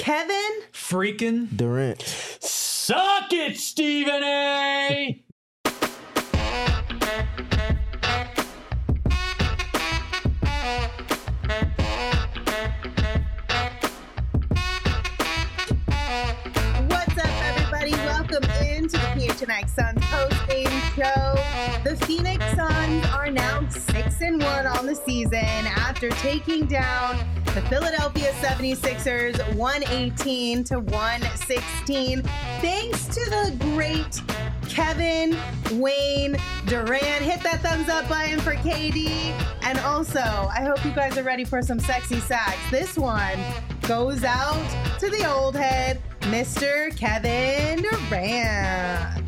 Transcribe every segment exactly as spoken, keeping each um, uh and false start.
Kevin freaking Durant. Suck it, Stephen A. What's up, everybody? Welcome into the P H N X Suns post-game show. The Phoenix Suns are now six and one on the season after taking down the Philadelphia seventy-sixers one eighteen to one sixteen. Thanks to the great Kevin Wayne Durant. Hit that thumbs up button for K D. And also, I hope you guys are ready for some sexy sacks. This one goes out to the old head, Mister Kevin Durant.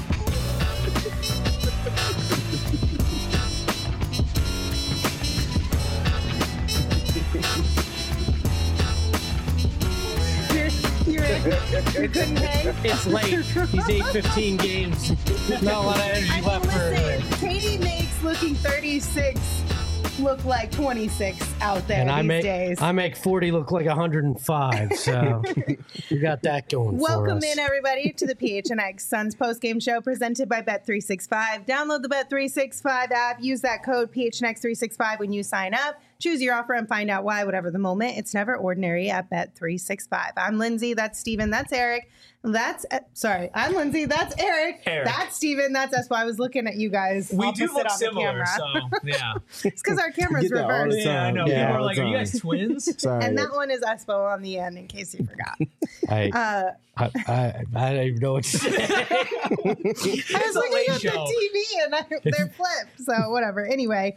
You couldn't hang? It's late. He's eight fifteen games. Not a lot of energy I mean, left for listen, Katie makes looking thirty-six look like twenty-six out there and these I make, days. I make forty look like one hundred five, so you got that going for us. Welcome in, everybody, to the P H N X Suns postgame show presented by Bet three sixty-five. Download the Bet three sixty-five app. Use that code P H N X three sixty-five when you sign up. Choose your offer and find out why, whatever the moment. It's never ordinary at Bet three sixty-five. I'm Lindsay. That's Steven. That's Eric. That's, uh, sorry, I'm Lindsay. That's Eric. Eric. That's Steven. That's us. I was looking at you guys. We opposite do look on the similar, camera. so yeah. It's because our camera's Get that all the reversed. Yeah, I know. Yeah, People are all like, the "Are you time. guys twins?" Sorry. And that one is Espo on the end, in case you forgot. I, Uh, I, I, I don't even know what to say. I was It's a looking late at show. the T V and I, they're flipped, so whatever. Anyway,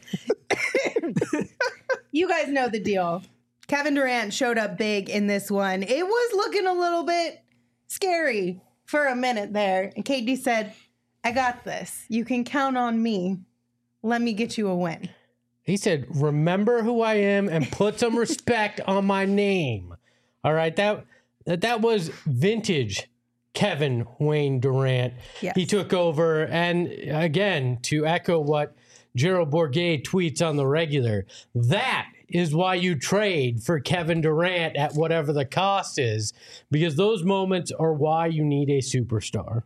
you guys know the deal. Kevin Durant showed up big in this one. It was looking a little bit scary for a minute there. And K D said, I got this. You can count on me. Let me get you a win. He said, remember who I am and put some respect on my name. All right, that that was vintage Kevin Wayne Durant. Yes. He took over, and again, to echo what Gerald Bourguet tweets on the regular, that is why you trade for Kevin Durant at whatever the cost is, because those moments are why you need a superstar.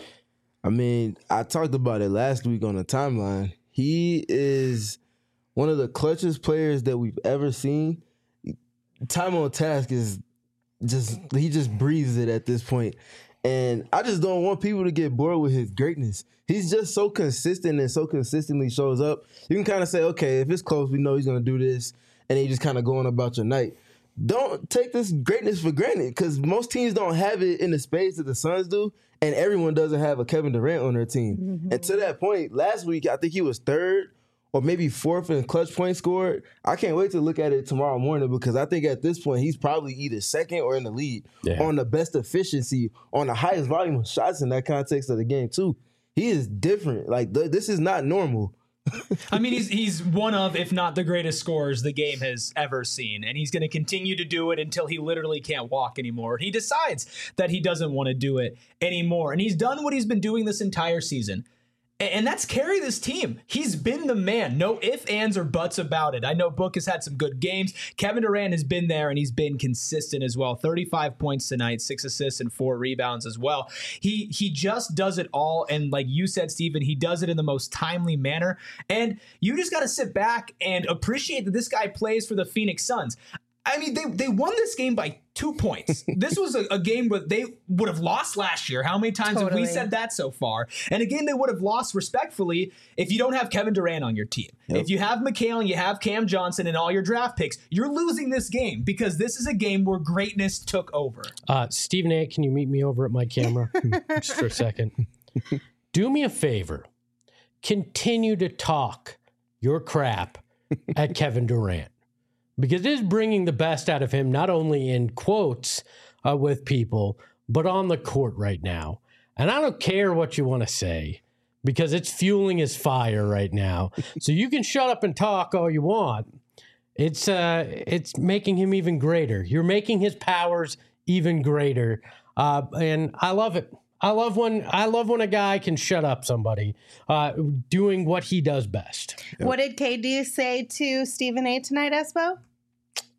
I mean, I talked about it last week on the timeline. He is one of the clutchest players that we've ever seen. Time on task is just, he just breathes it at this point. And I just don't want people to get bored with his greatness. He's just so consistent and so consistently shows up. You can kind of say, okay, if it's close, we know he's going to do this. And then you just kind of going about your night. Don't take this greatness for granted, because most teams don't have it in the space that the Suns do, and everyone doesn't have a Kevin Durant on their team. Mm-hmm. And to that point, last week, I think he was third or maybe fourth in clutch points scored. I can't wait to look at it tomorrow morning, because I think at this point, he's probably either second or in the lead yeah. on the best efficiency, on the highest volume of shots in that context of the game, too. He is different. Like, th- this is not normal. I mean, he's he's one of, if not the greatest scorers the game has ever seen, and he's going to continue to do it until he literally can't walk anymore. He decides that he doesn't want to do it anymore, and he's done what he's been doing this entire season. And that's carry this team. He's been the man. No ifs, ands, or buts about it. I know Book has had some good games. Kevin Durant has been there, and he's been consistent as well. thirty-five points tonight, six assists, and four rebounds as well. He he just does it all, and like you said, Stephen, he does it in the most timely manner. And you just got to sit back and appreciate that this guy plays for the Phoenix Suns. I mean, they they won this game by two points. This was a, a game where they would have lost last year. How many times totally. have we said that so far? And a game they would have lost respectfully if you don't have Kevin Durant on your team. Yep. If you have McHale and you have Cam Johnson and all your draft picks, you're losing this game, because this is a game where greatness took over. Uh, Stephen A., can you meet me over at my camera just for a second? Do me a favor. Continue to talk your crap at Kevin Durant. Because it is bringing the best out of him, not only in quotes uh, with people, but on the court right now. And I don't care what you want to say, because it's fueling his fire right now. So you can shut up and talk all you want. It's uh, it's making him even greater. You're making his powers even greater. Uh, and I love it. I love when I love when a guy can shut up somebody uh, doing what he does best. What did K D say to Stephen A. tonight, Espo?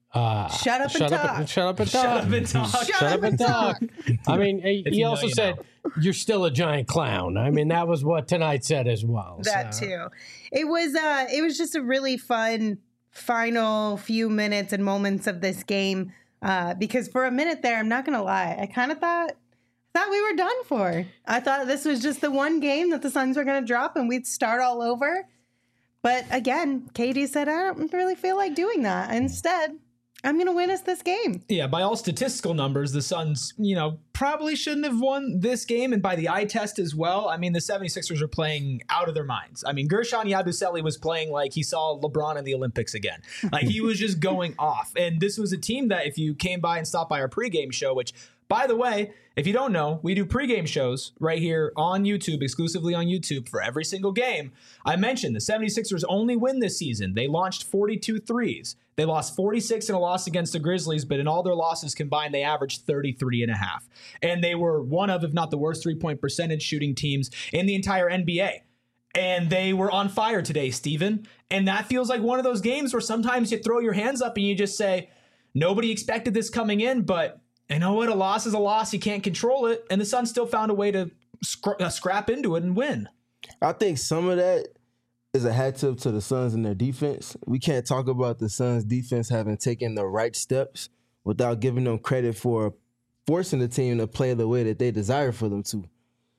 Uh, Shut up and shut talk. Up and, shut up and talk. Shut up and talk. Shut, Shut up and talk. I mean, he, If he you know, also you said, know. "You're still a giant clown." I mean, that was what tonight said as well. That so. too. It was uh it was just a really fun final few minutes and moments of this game. Uh, because for a minute there, I'm not gonna lie, I kind of thought thought we were done for. I thought this was just the one game that the Suns were gonna drop and we'd start all over. But again, K D said, I don't really feel like doing that. Instead, I'm going to win us this game. Yeah, by all statistical numbers, the Suns, you know, probably shouldn't have won this game. And by the eye test as well, I mean, the 76ers are playing out of their minds. I mean, Gershon Yabusele was playing like he saw LeBron in the Olympics again. Like, he was just going off. And this was a team that if you came by and stopped by our pregame show, which, by the way, if you don't know, we do pregame shows right here on YouTube, exclusively on YouTube for every single game. I mentioned the 76ers only win this season. They launched forty-two threes. They lost forty-six in a loss against the Grizzlies, but in all their losses combined, they averaged thirty-three and a half. And they were one of, if not the worst, three-point percentage shooting teams in the entire N B A. And they were on fire today, Steven. And that feels like one of those games where sometimes you throw your hands up and you just say, nobody expected this coming in, but you know what? A loss is a loss. You can't control it. And the Suns still found a way to scra- uh, scrap into it and win. I think some of that is a hat tip to the Suns and their defense. We can't talk about the Suns' defense having taken the right steps without giving them credit for forcing the team to play the way that they desire for them to.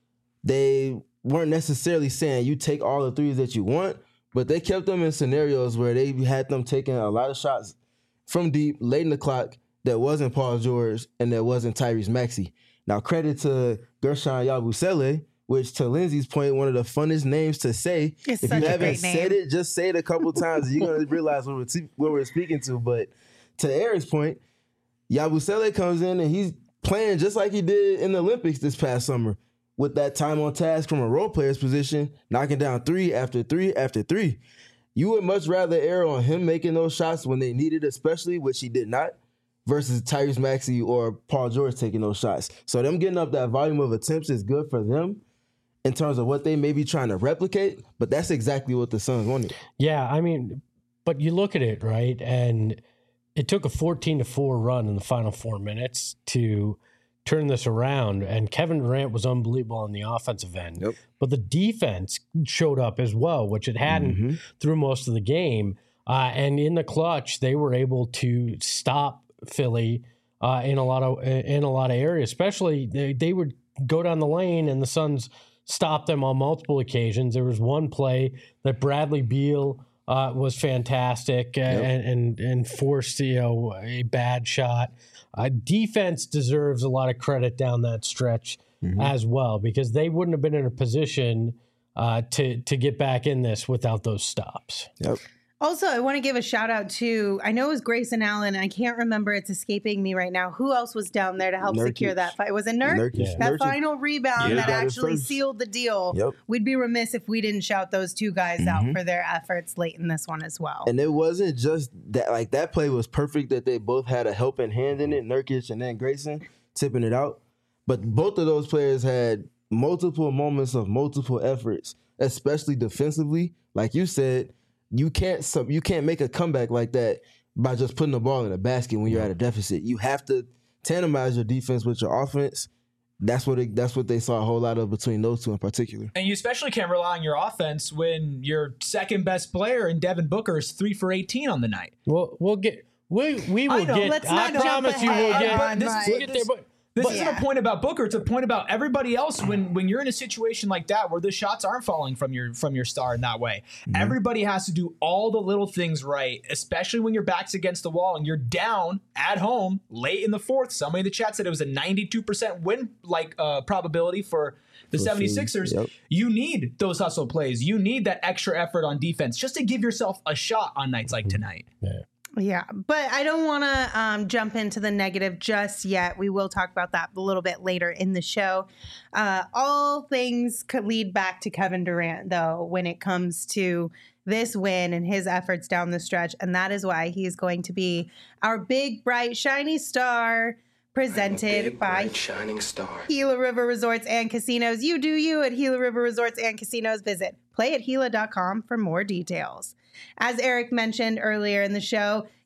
They weren't necessarily saying you take all the threes that you want, but they kept them in scenarios where they had them taking a lot of shots from deep, late in the clock, that wasn't Paul George and that wasn't Tyrese Maxey. Now, credit to Gershon Yabusele, which to Lindsay's point, one of the funnest names to say. It's if such you a haven't great name. said it, just say it a couple times. You're going to realize what we're, t- what we're speaking to. But to Aaron's point, Yabusele comes in and he's playing just like he did in the Olympics this past summer with that time on task from a role player's position, knocking down three after three after three. You would much rather err on him making those shots when they needed, especially, which he did not, versus Tyrese Maxey or Paul George taking those shots. So them getting up that volume of attempts is good for them in terms of what they may be trying to replicate, but that's exactly what the Suns wanted. Yeah, I mean, but you look at it, right, and it took a fourteen to four run in the final four minutes to turn this around, and Kevin Durant was unbelievable on the offensive end. Yep. But the defense showed up as well, which it hadn't Mm-hmm. through most of the game. Uh, and in the clutch, they were able to stop Philly uh, in a lot of in a lot of areas. Especially they, they would go down the lane, and the Suns stopped them on multiple occasions. There was one play that Bradley Beal uh, was fantastic uh, Yep. and, and and forced you know a bad shot. Uh, defense deserves a lot of credit down that stretch Mm-hmm. as well, because they wouldn't have been in a position uh, to to get back in this without those stops. Yep. Also, I want to give a shout out to, I know it was Grayson Allen. I can't remember. It's escaping me right now. Who else was down there to help Nurkic. secure that fight? Was it Nurk? Nurkic. Yeah. That Nurkic. final rebound Yeah. that Got it actually first. sealed the deal. Yep. We'd be remiss if we didn't shout those two guys out Mhm. for their efforts late in this one as well. And it wasn't just that, like, that play was perfect that they both had a helping hand in it, Nurkic and then Grayson tipping it out. But both of those players had multiple moments of multiple efforts, especially defensively. Like you said, you can't sub, you can't make a comeback like that by just putting the ball in a basket when you're at a deficit. You have to tandemize your defense with your offense. That's what it, that's what they saw a whole lot of between those two in particular. And you especially can't rely on your offense when your second best player in Devin Booker is three for eighteen on the night. We'll we'll get we we will know. get. Let's I not jump promise you ahead we'll get. on this- my- we'll get there, but This but- isn't Yeah. a point about Booker. It's a point about everybody else. When when you're in a situation like that where the shots aren't falling from your from your star in that way, everybody has to do all the little things right, especially when your back's against the wall and you're down at home late in the fourth. Somebody in the chat said it was a ninety-two percent win like uh, probability for the For seventy-sixers. Philly, yep. You need those hustle plays. You need that extra effort on defense just to give yourself a shot on nights like tonight. Yeah, but I don't want to um, jump into the negative just yet. We will talk about that a little bit later in the show. Uh, all things could lead back to Kevin Durant, though, when it comes to this win and his efforts down the stretch. And that is why he is going to be our big, bright, shiny star presented Big, by bright, shining star. Gila River Resorts and Casinos. You do you at Gila River Resorts and Casinos. Visit play at gila dot com for more details. As Eric mentioned earlier in the show,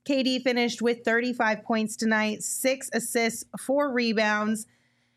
K D finished with thirty-five points tonight, six assists, four rebounds,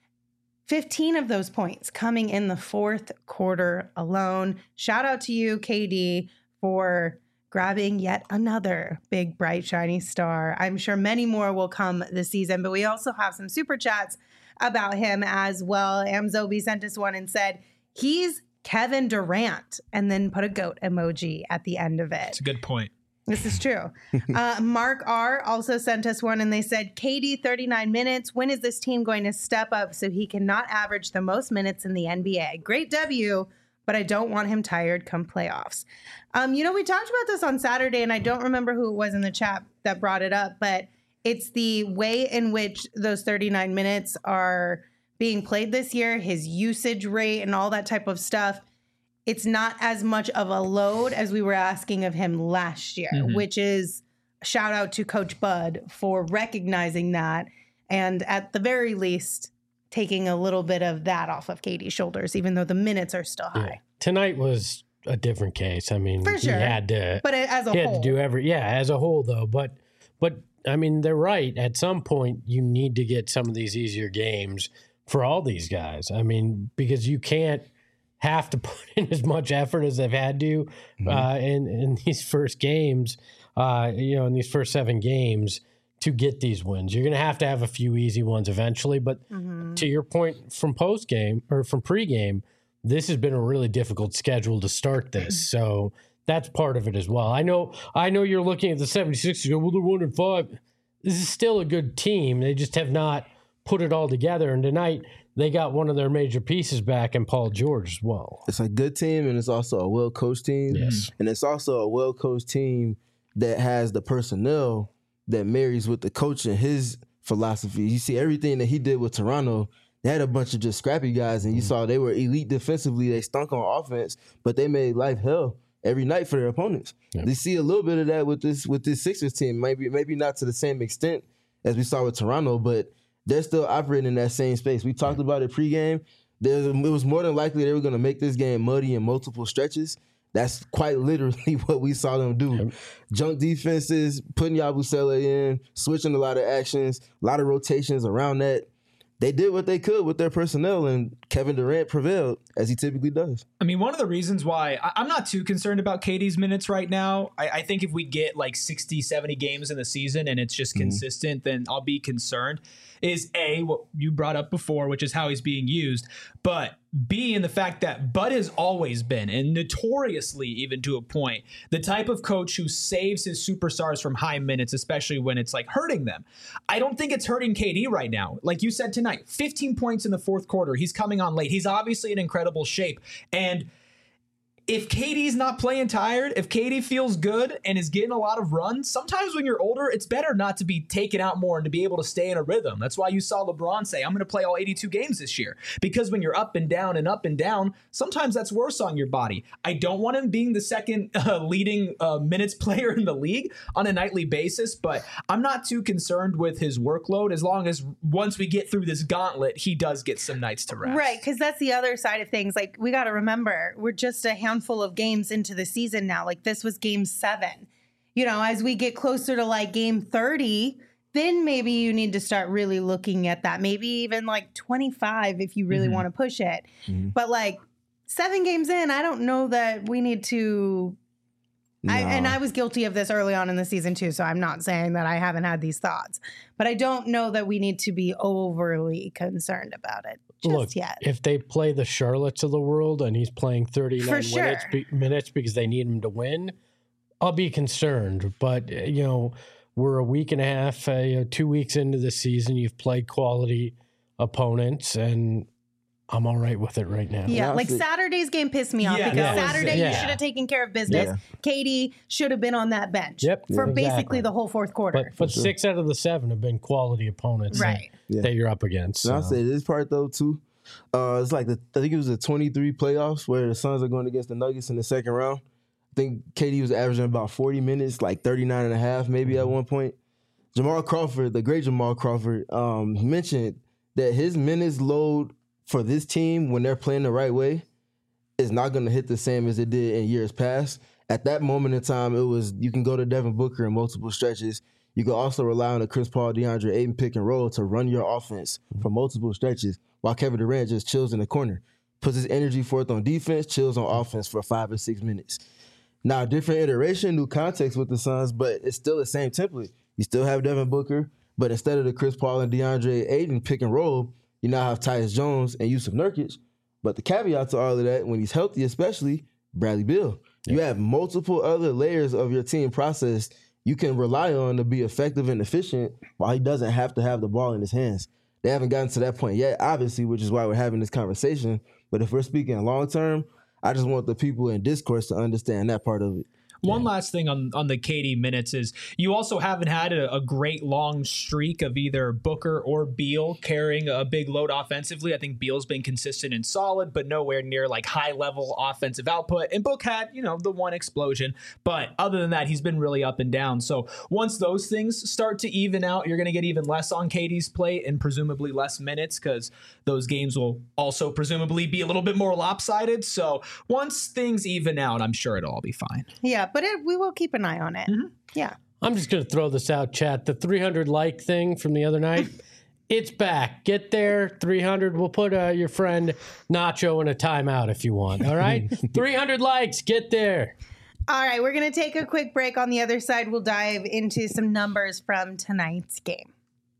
fifteen of those points coming in the fourth quarter alone. Shout out to you, K D, for grabbing yet another big, bright, shiny star. I'm sure many more will come this season, but we also have some super chats about him as well. Amzobi sent us one and said, he's Kevin Durant, and then put a goat emoji at the end of it. That's a good point. This is true. uh, Mark R. also sent us one, and they said, K D, thirty-nine minutes. When is this team going to step up so he cannot average the most minutes in the N B A? Great W, but I don't want him tired come playoffs. Um, you know, we talked about this on Saturday, and I don't remember who it was in the chat that brought it up, but it's the way in which those thirty-nine minutes are being played this year, his usage rate and all that type of stuff. It's not as much of a load as we were asking of him last year, mm-hmm. which is shout out to Coach Bud for recognizing that. And at the very least, taking a little bit of that off of K D's shoulders, even though the minutes are still high. Yeah. Tonight was a different case. I mean, for sure. he had to, but as a he whole, had to do every, yeah, as a whole though. But, but I mean, they're right. At some point, you need to get some of these easier games for all these guys. I mean, because you can't have to put in as much effort as they've had to mm-hmm. uh, in, in these first games, uh, you know, in these first seven games to get these wins. You're going to have to have a few easy ones eventually. But mm-hmm. to your point from post game or from pregame, this has been a really difficult schedule to start this. So that's part of it as well. I know, I know you're looking at the seventy-sixers and go, well, they're one and five. This is still a good team. They just have not put it all together. And tonight, they got one of their major pieces back in Paul George as well. It's a good team, and it's also a well-coached team. Yes. And it's also a well-coached team that has the personnel that marries with the coach and his philosophy. You see everything that he did with Toronto. They had a bunch of just scrappy guys, and you mm-hmm. saw they were elite defensively. They stunk on offense, but they made life hell every night for their opponents. Yep. They see a little bit of that with this with this Sixers team. Maybe maybe not to the same extent as we saw with Toronto, but they're still operating in that same space. We talked about it pregame. There's, it was more than likely they were going to make this game muddy in multiple stretches. That's quite literally what we saw them do. Yep. Junk defenses, putting Yabusele in, switching a lot of actions, a lot of rotations around that. They did what they could with their personnel, and Kevin Durant prevailed, as he typically does. I mean, one of the reasons why I, I'm not too concerned about K D's minutes right now, I, I think if we get like sixty, seventy games in the season and it's just mm-hmm. consistent, then I'll be concerned, is A, what you brought up before, which is how he's being used, but B, in the fact that Bud has always been, and notoriously even to a point, the type of coach who saves his superstars from high minutes, especially when it's like hurting them. I don't think it's hurting K D right now. Like you said tonight, fifteen points in the fourth quarter. He's coming on late. He's obviously in incredible shape. And if K D's not playing tired, if K D feels good and is getting a lot of runs, sometimes when you're older, it's better not to be taken out more and to be able to stay in a rhythm. That's why you saw LeBron say, I'm going to play all eighty-two games this year. Because when you're up and down and up and down, sometimes that's worse on your body. I don't want him being the second uh, leading uh, minutes player in the league on a nightly basis, but I'm not too concerned with his workload as long as once we get through this gauntlet, he does get some nights to rest. Right, because that's the other side of things. Like, we got to remember, we're just a handful full of games into the season now. Like, this was game seven. You know, as we get closer to like game thirty, then maybe you need to start really looking at that. Maybe even like twenty-five if you really mm-hmm. want to push it. Mm-hmm. But like seven games in, I don't know that we need to. No. I, and I was guilty of this early on in the season too, so I'm not saying that I haven't had these thoughts. But I don't know that we need to be overly concerned about it just Look, yet. If they play the Charlottes of the world and he's playing thirty-nine sure. minutes, be, minutes because they need him to win, I'll be concerned. But, you know, we're a week and a half, uh, you know, two weeks into the season. You've played quality opponents, and I'm all right with it right now. Yeah, like Saturday's game pissed me off yeah, because yeah. Saturday Yeah. you should have taken care of business. Yeah. K D should have been on that bench Yep, for yeah, basically exactly. the whole fourth quarter. But, but six out of the seven have been quality opponents Right. that, Yeah. that you're up against. And I'll so. say this part though too. Uh, it's like the I think it was the twenty-three playoffs where the Suns are going against the Nuggets in the second round. I think K D was averaging about forty minutes, like thirty-nine and a half maybe mm-hmm. at one point. Jamal Crawford, the great Jamal Crawford, um, mentioned that his minutes load for this team when they're playing the right way is not going to hit the same as it did in years past. At that moment in time, it was you can go to Devin Booker in multiple stretches. You can also rely on the Chris Paul, DeAndre Ayton pick and roll to run your offense for multiple stretches, while Kevin Durant just chills in the corner, puts his energy forth on defense, chills on offense for five or six minutes. Now, different iteration, new context with the Suns, but it's still the same template. You still have Devin Booker, but instead of the Chris Paul and DeAndre Ayton pick and roll, you now have Tyus Jones and Yusuf Nurkic. But the caveat to all of that, when he's healthy especially, Bradley Beal. Yeah. You have multiple other layers of your team process you can rely on to be effective and efficient while he doesn't have to have the ball in his hands. They haven't gotten to that point yet, obviously, which is why we're having this conversation. But if we're speaking long term, I just want the people in discourse to understand that part of it. One yeah. last thing on, on the K D minutes is you also haven't had a, a great long streak of either Booker or Beal carrying a big load offensively. I think Beal's been consistent and solid, but nowhere near like high level offensive output. And Book had, you know, the one explosion. But other than that, he's been really up and down. So once those things start to even out, you're going to get even less on K D's plate and presumably less minutes because those games will also presumably be a little bit more lopsided. So once things even out, I'm sure it'll all be fine. Yeah. But it, we will keep an eye on it. Mm-hmm. Yeah. I'm just going to throw this out, chat. The three hundred like thing from the other night, it's back. Get there, three hundred. We'll put uh, your friend Nacho in a timeout if you want. All right? three hundred likes. Get there. All right. We're going to take a quick break. On the other side, we'll dive into some numbers from tonight's game.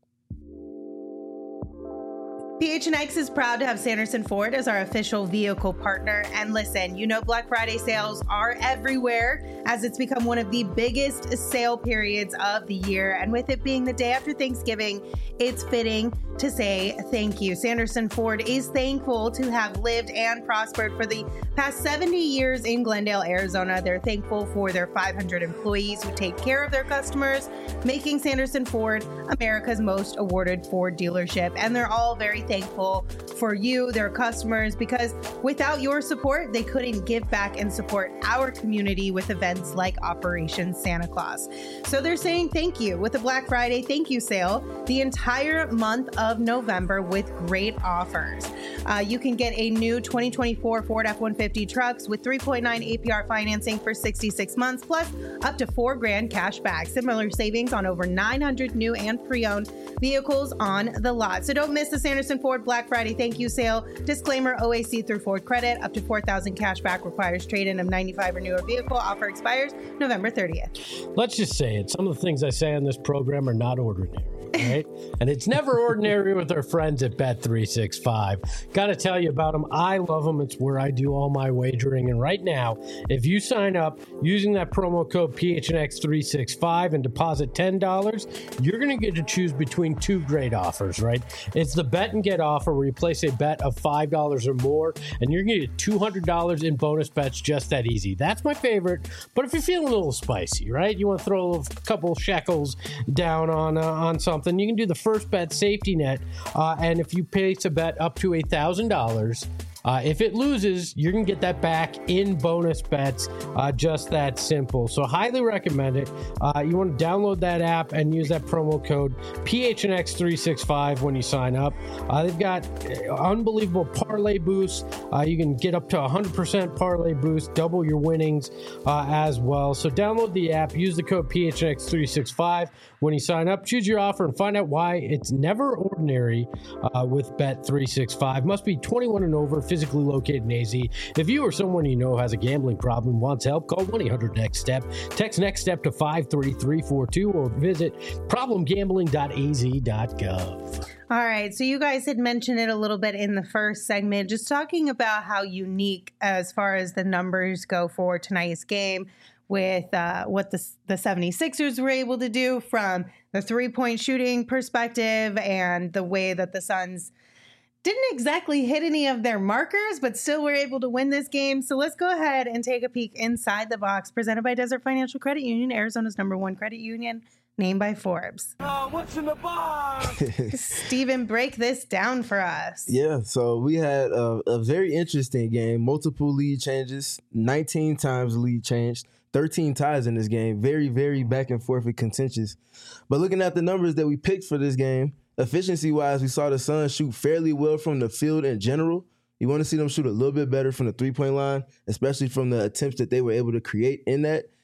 P H N X is proud to have Sanderson Ford as our official vehicle partner. And listen, you know Black Friday sales are everywhere as it's become one of the biggest sale periods of the year. And with it being the day after Thanksgiving, it's fitting to say thank you. Sanderson Ford is thankful to have lived and prospered for the past seventy years in Glendale, Arizona. They're thankful for their five hundred employees who take care of their customers, making Sanderson Ford America's most awarded Ford dealership. And they're all very thankful for you, their customers, because without your support, they couldn't give back and support our community with events like Operation Santa Claus. So they're saying thank you with the Black Friday thank you sale the entire month of November with great offers. Uh, you can get a new twenty twenty-four Ford F one fifty trucks with three point nine A P R financing for sixty-six months, plus up to four grand cash back. Similar savings on over nine hundred new and pre-owned vehicles on the lot. So don't miss the Sanderson Ford Black Friday thank you sale. Disclaimer, O A C through Ford credit. Up to four thousand cash back requires trade-in of ninety-five or newer vehicle. Offer expires November thirtieth. Let's just say it. Some of the things I say on this program are not ordinary. Right? And it's never ordinary with our friends at Bet three sixty-five. Got to tell you about them. I love them. It's where I do all my wagering. And right now, if you sign up using that promo code P H N X three sixty-five and deposit ten dollars, you're going to get to choose between two great offers, right? It's the bet and get offer where you place a bet of five dollars or more, and you're going to get two hundred dollars in bonus bets just that easy. That's my favorite. But if you're feeling a little spicy, right? You want to throw a couple shekels down on, uh, on something, you can do the first bet safety net. Uh, and if you place a bet up to one thousand dollars, Uh, if it loses, you're going to get that back in bonus bets. Uh, just that simple. So highly recommend it. Uh, you want to download that app and use that promo code P H N X three sixty-five when you sign up. Uh, they've got unbelievable parlay boosts. Uh, you can get up to one hundred percent parlay boost, double your winnings uh, as well. So download the app, use the code P H N X three sixty-five when you sign up. Choose your offer and find out why it's never ordinary uh, with Bet three sixty-five. Must be twenty-one and over. Physically located in A Z. If you or someone you know has a gambling problem, wants help, call one eight hundred next step. Text NEXTSTEP to five three three four two or visit problem gambling dot a z dot gov. All right. So you guys had mentioned it a little bit in the first segment, just talking about how unique as far as the numbers go for tonight's game with uh, what the, the seventy-sixers were able to do from the three-point shooting perspective and the way that the Suns didn't exactly hit any of their markers, but still were able to win this game. So let's go ahead and take a peek inside the box, presented by Desert Financial Credit Union, Arizona's number one credit union, named by Forbes. Uh, what's in the box? Steven, break this down for us. Yeah, so we had a, a very interesting game. Multiple lead changes, nineteen times the lead changed, thirteen ties in this game. Very, very back and forth and contentious. But looking at the numbers that we picked for this game, efficiency-wise, we saw the Suns shoot fairly well from the field in general. You want to see them shoot a little bit better from the three-point line, especially from the attempts that they were able to create in that.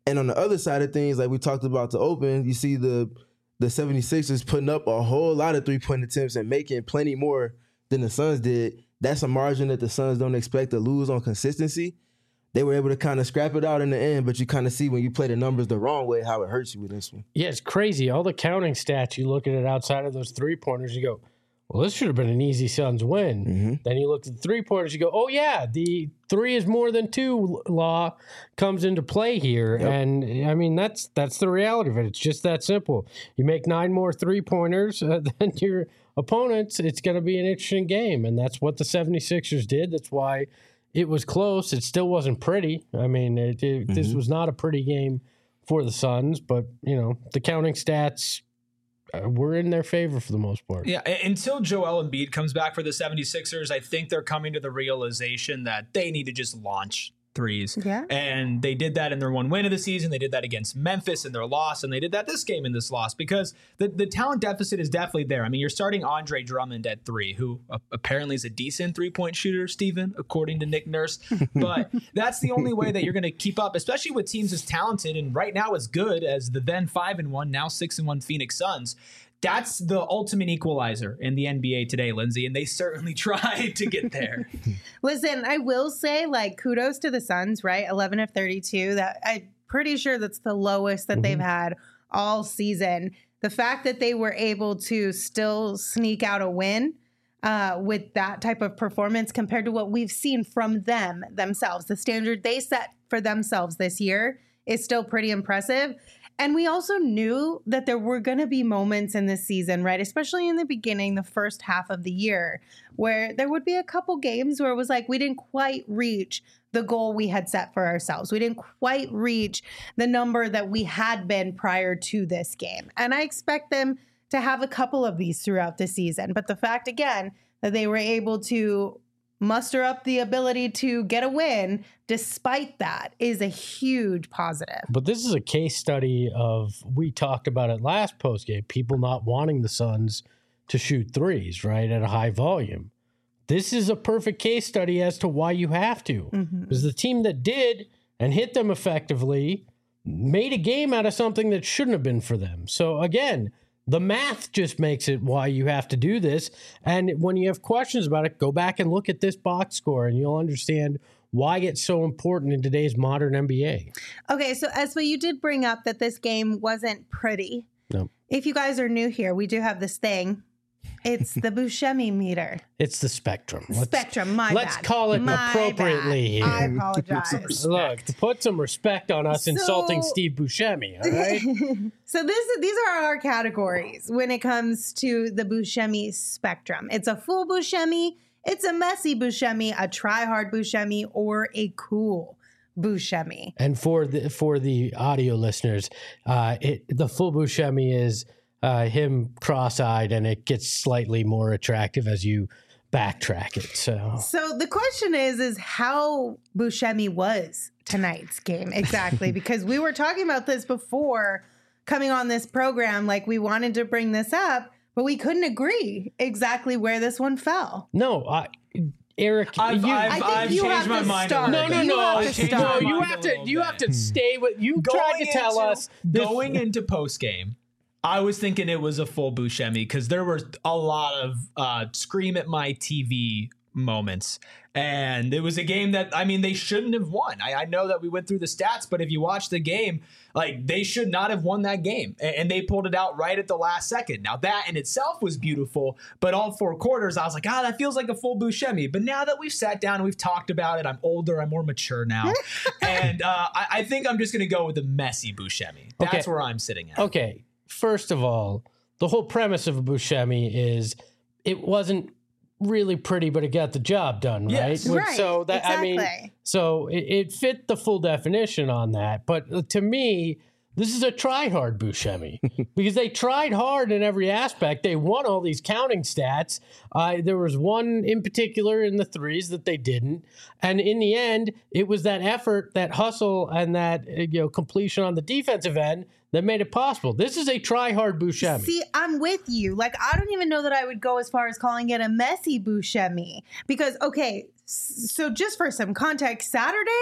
And on the other side of things, like we talked about to open, you see the the 76ers putting up a whole lot of three-point attempts and making plenty more than the Suns did. That's a margin that the Suns don't expect to lose on consistency. They were able to kind of scrap it out in the end, but you kind of see when you play the numbers the wrong way how it hurts you with this one. Yeah, it's crazy. All the counting stats, you look at it outside of those three-pointers, you go, well, this should have been an easy Suns win. Mm-hmm. Then you look at the three-pointers, you go, oh, yeah, the three is more than two law comes into play here. Yep. And, I mean, that's that's the reality of it. It's just that simple. You make nine more three-pointers uh, than your opponents, it's going to be an interesting game. And that's what the 76ers did. That's why it was close. It still wasn't pretty. I mean, it, it, mm-hmm. this was not a pretty game for the Suns. But, you know, the counting stats – Uh, we're in their favor for the most part. Yeah, until Joel Embiid comes back for the 76ers, I think they're coming to the realization that they need to just launch threes. Yeah. And they did that in their one win of the season. They did that against Memphis in their loss, and they did that this game in this loss because the, the talent deficit is definitely there. I mean, you're starting Andre Drummond at three, who uh, apparently is a decent three-point shooter, Steven, according to Nick Nurse. But that's the only way that you're going to keep up, especially with teams as talented and right now as good as the then five and one, now six and one Phoenix Suns. That's the ultimate equalizer in the N B A today, Lindsay, and they certainly tried to get there. Listen, I will say, like, kudos to the Suns, right? eleven of thirty-two. That I'm pretty sure that's the lowest that mm-hmm. they've had all season. The fact that they were able to still sneak out a win uh, with that type of performance compared to what we've seen from them themselves, the standard they set for themselves this year is still pretty impressive. And we also knew that there were going to be moments in this season, right? Especially in the beginning, the first half of the year, where there would be a couple games where it was like we didn't quite reach the goal we had set for ourselves. We didn't quite reach the number that we had been prior to this game. And I expect them to have a couple of these throughout the season. But the fact, again, that they were able to muster up the ability to get a win despite that is a huge positive. But this is a case study of, we talked about it last postgame, people not wanting the Suns to shoot threes, right, at a high volume. This is a perfect case study as to why you have to. Mm-hmm. Because the team that did and hit them effectively made a game out of something that shouldn't have been for them. So again, the math just makes it why you have to do this. And when you have questions about it, go back and look at this box score and you'll understand why it's so important in today's modern N B A. Okay, so Espo, you did bring up that this game wasn't pretty. No. If you guys are new here, we do have this thing. It's the Buscemi meter. It's the spectrum. Let's, spectrum, my let's bad. Let's call it my appropriately bad. here. I apologize. Look, to put some respect on us so, insulting Steve Buscemi, all right? So this, these are our categories when it comes to the Buscemi spectrum. It's a full Buscemi, it's a messy Buscemi, a try-hard Buscemi, or a cool Buscemi. And for the for the audio listeners, uh, it, the full Buscemi is uh, him cross-eyed, and it gets slightly more attractive as you backtrack it. So, so the question is, is how Buscemi was tonight's game exactly? Because we were talking about this before coming on this program, like we wanted to bring this up, but we couldn't agree exactly where this one fell. No, I. Eric, I've, you, I've, I think I've you changed have my to mind. start. A no, little no, bit. no, have I've to changed start. my no. You mind have a to. little You bit. have to stay with. You tried to tell into, us going into post game. I was thinking it was a full Buscemi because there were a lot of uh, scream at my T V moments. And it was a game that, I mean, they shouldn't have won. I, I know that we went through the stats, but if you watch the game, like, they should not have won that game. And, and they pulled it out right at the last second. Now, that in itself was beautiful, but all four quarters, I was like, ah, that feels like a full Buscemi. But now that we've sat down and we've talked about it, I'm older, I'm more mature now. and uh, I, I think I'm just going to go with the messy Buscemi. That's Okay. where I'm sitting at. Okay, first of all, the whole premise of a Buscemi is it wasn't really pretty, but it got the job done, right? Yes. Which- Right, So that I mean, exactly. so it, it fit the full definition on that. But to me, this is a try-hard Buscemi because they tried hard in every aspect. They won all these counting stats. Uh, there was one in particular in the threes that they didn't, and in the end, it was that effort, that hustle, and that uh, you know completion on the defensive end that made it possible. This is a try-hard Buscemi. See, I'm with you. Like, I don't even know that I would go as far as calling it a messy Buscemi because, okay, s- so just for some context, Saturday,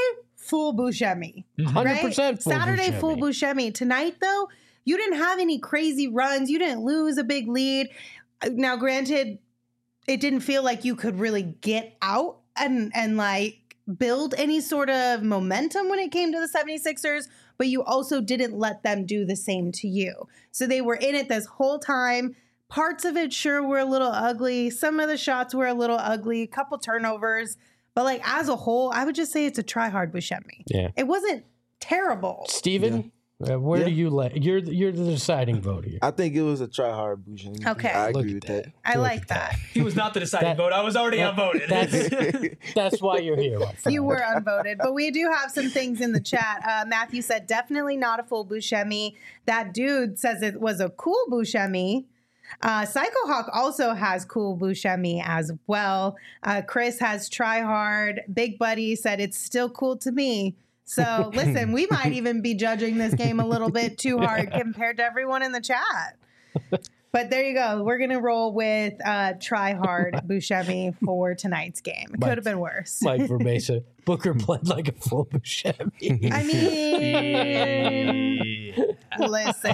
full Buscemi. one hundred percent full Saturday Buscemi. full Buscemi. Tonight, though, you didn't have any crazy runs. You didn't lose a big lead. Now, granted, it didn't feel like you could really get out and and like build any sort of momentum when it came to the seventy-sixers, but you also didn't let them do the same to you. So they were in it this whole time. Parts of it sure were a little ugly. Some of the shots were a little ugly, a couple turnovers. But like as a whole, I would just say it's a try-hard Buscemi. Yeah. It wasn't terrible. Steven, uh, where Yeah. do you let you're the- you're the deciding vote here. I think it was a try hard Buscemi. Okay. I Look agree at with that. that. I Look like at that. He was not the deciding That- vote. I was already that- outvoted. That's that's why you're here. My friend. You were unvoted, but we do have some things in the chat. Uh, Matthew said definitely not a full Buscemi. That dude says it was a cool Buscemi. Uh, Psycho Hawk also has cool Buscemi as well. Uh, Chris has try hard. Big Buddy said it's still cool to me. So listen, we might even be judging this game a little bit too hard compared to everyone in the chat. But there you go. We're going to roll with uh, try hard Buscemi for tonight's game. It Mike- could have been worse. Mike Vermesa. Booker played like a full Buscemi. I mean, listen.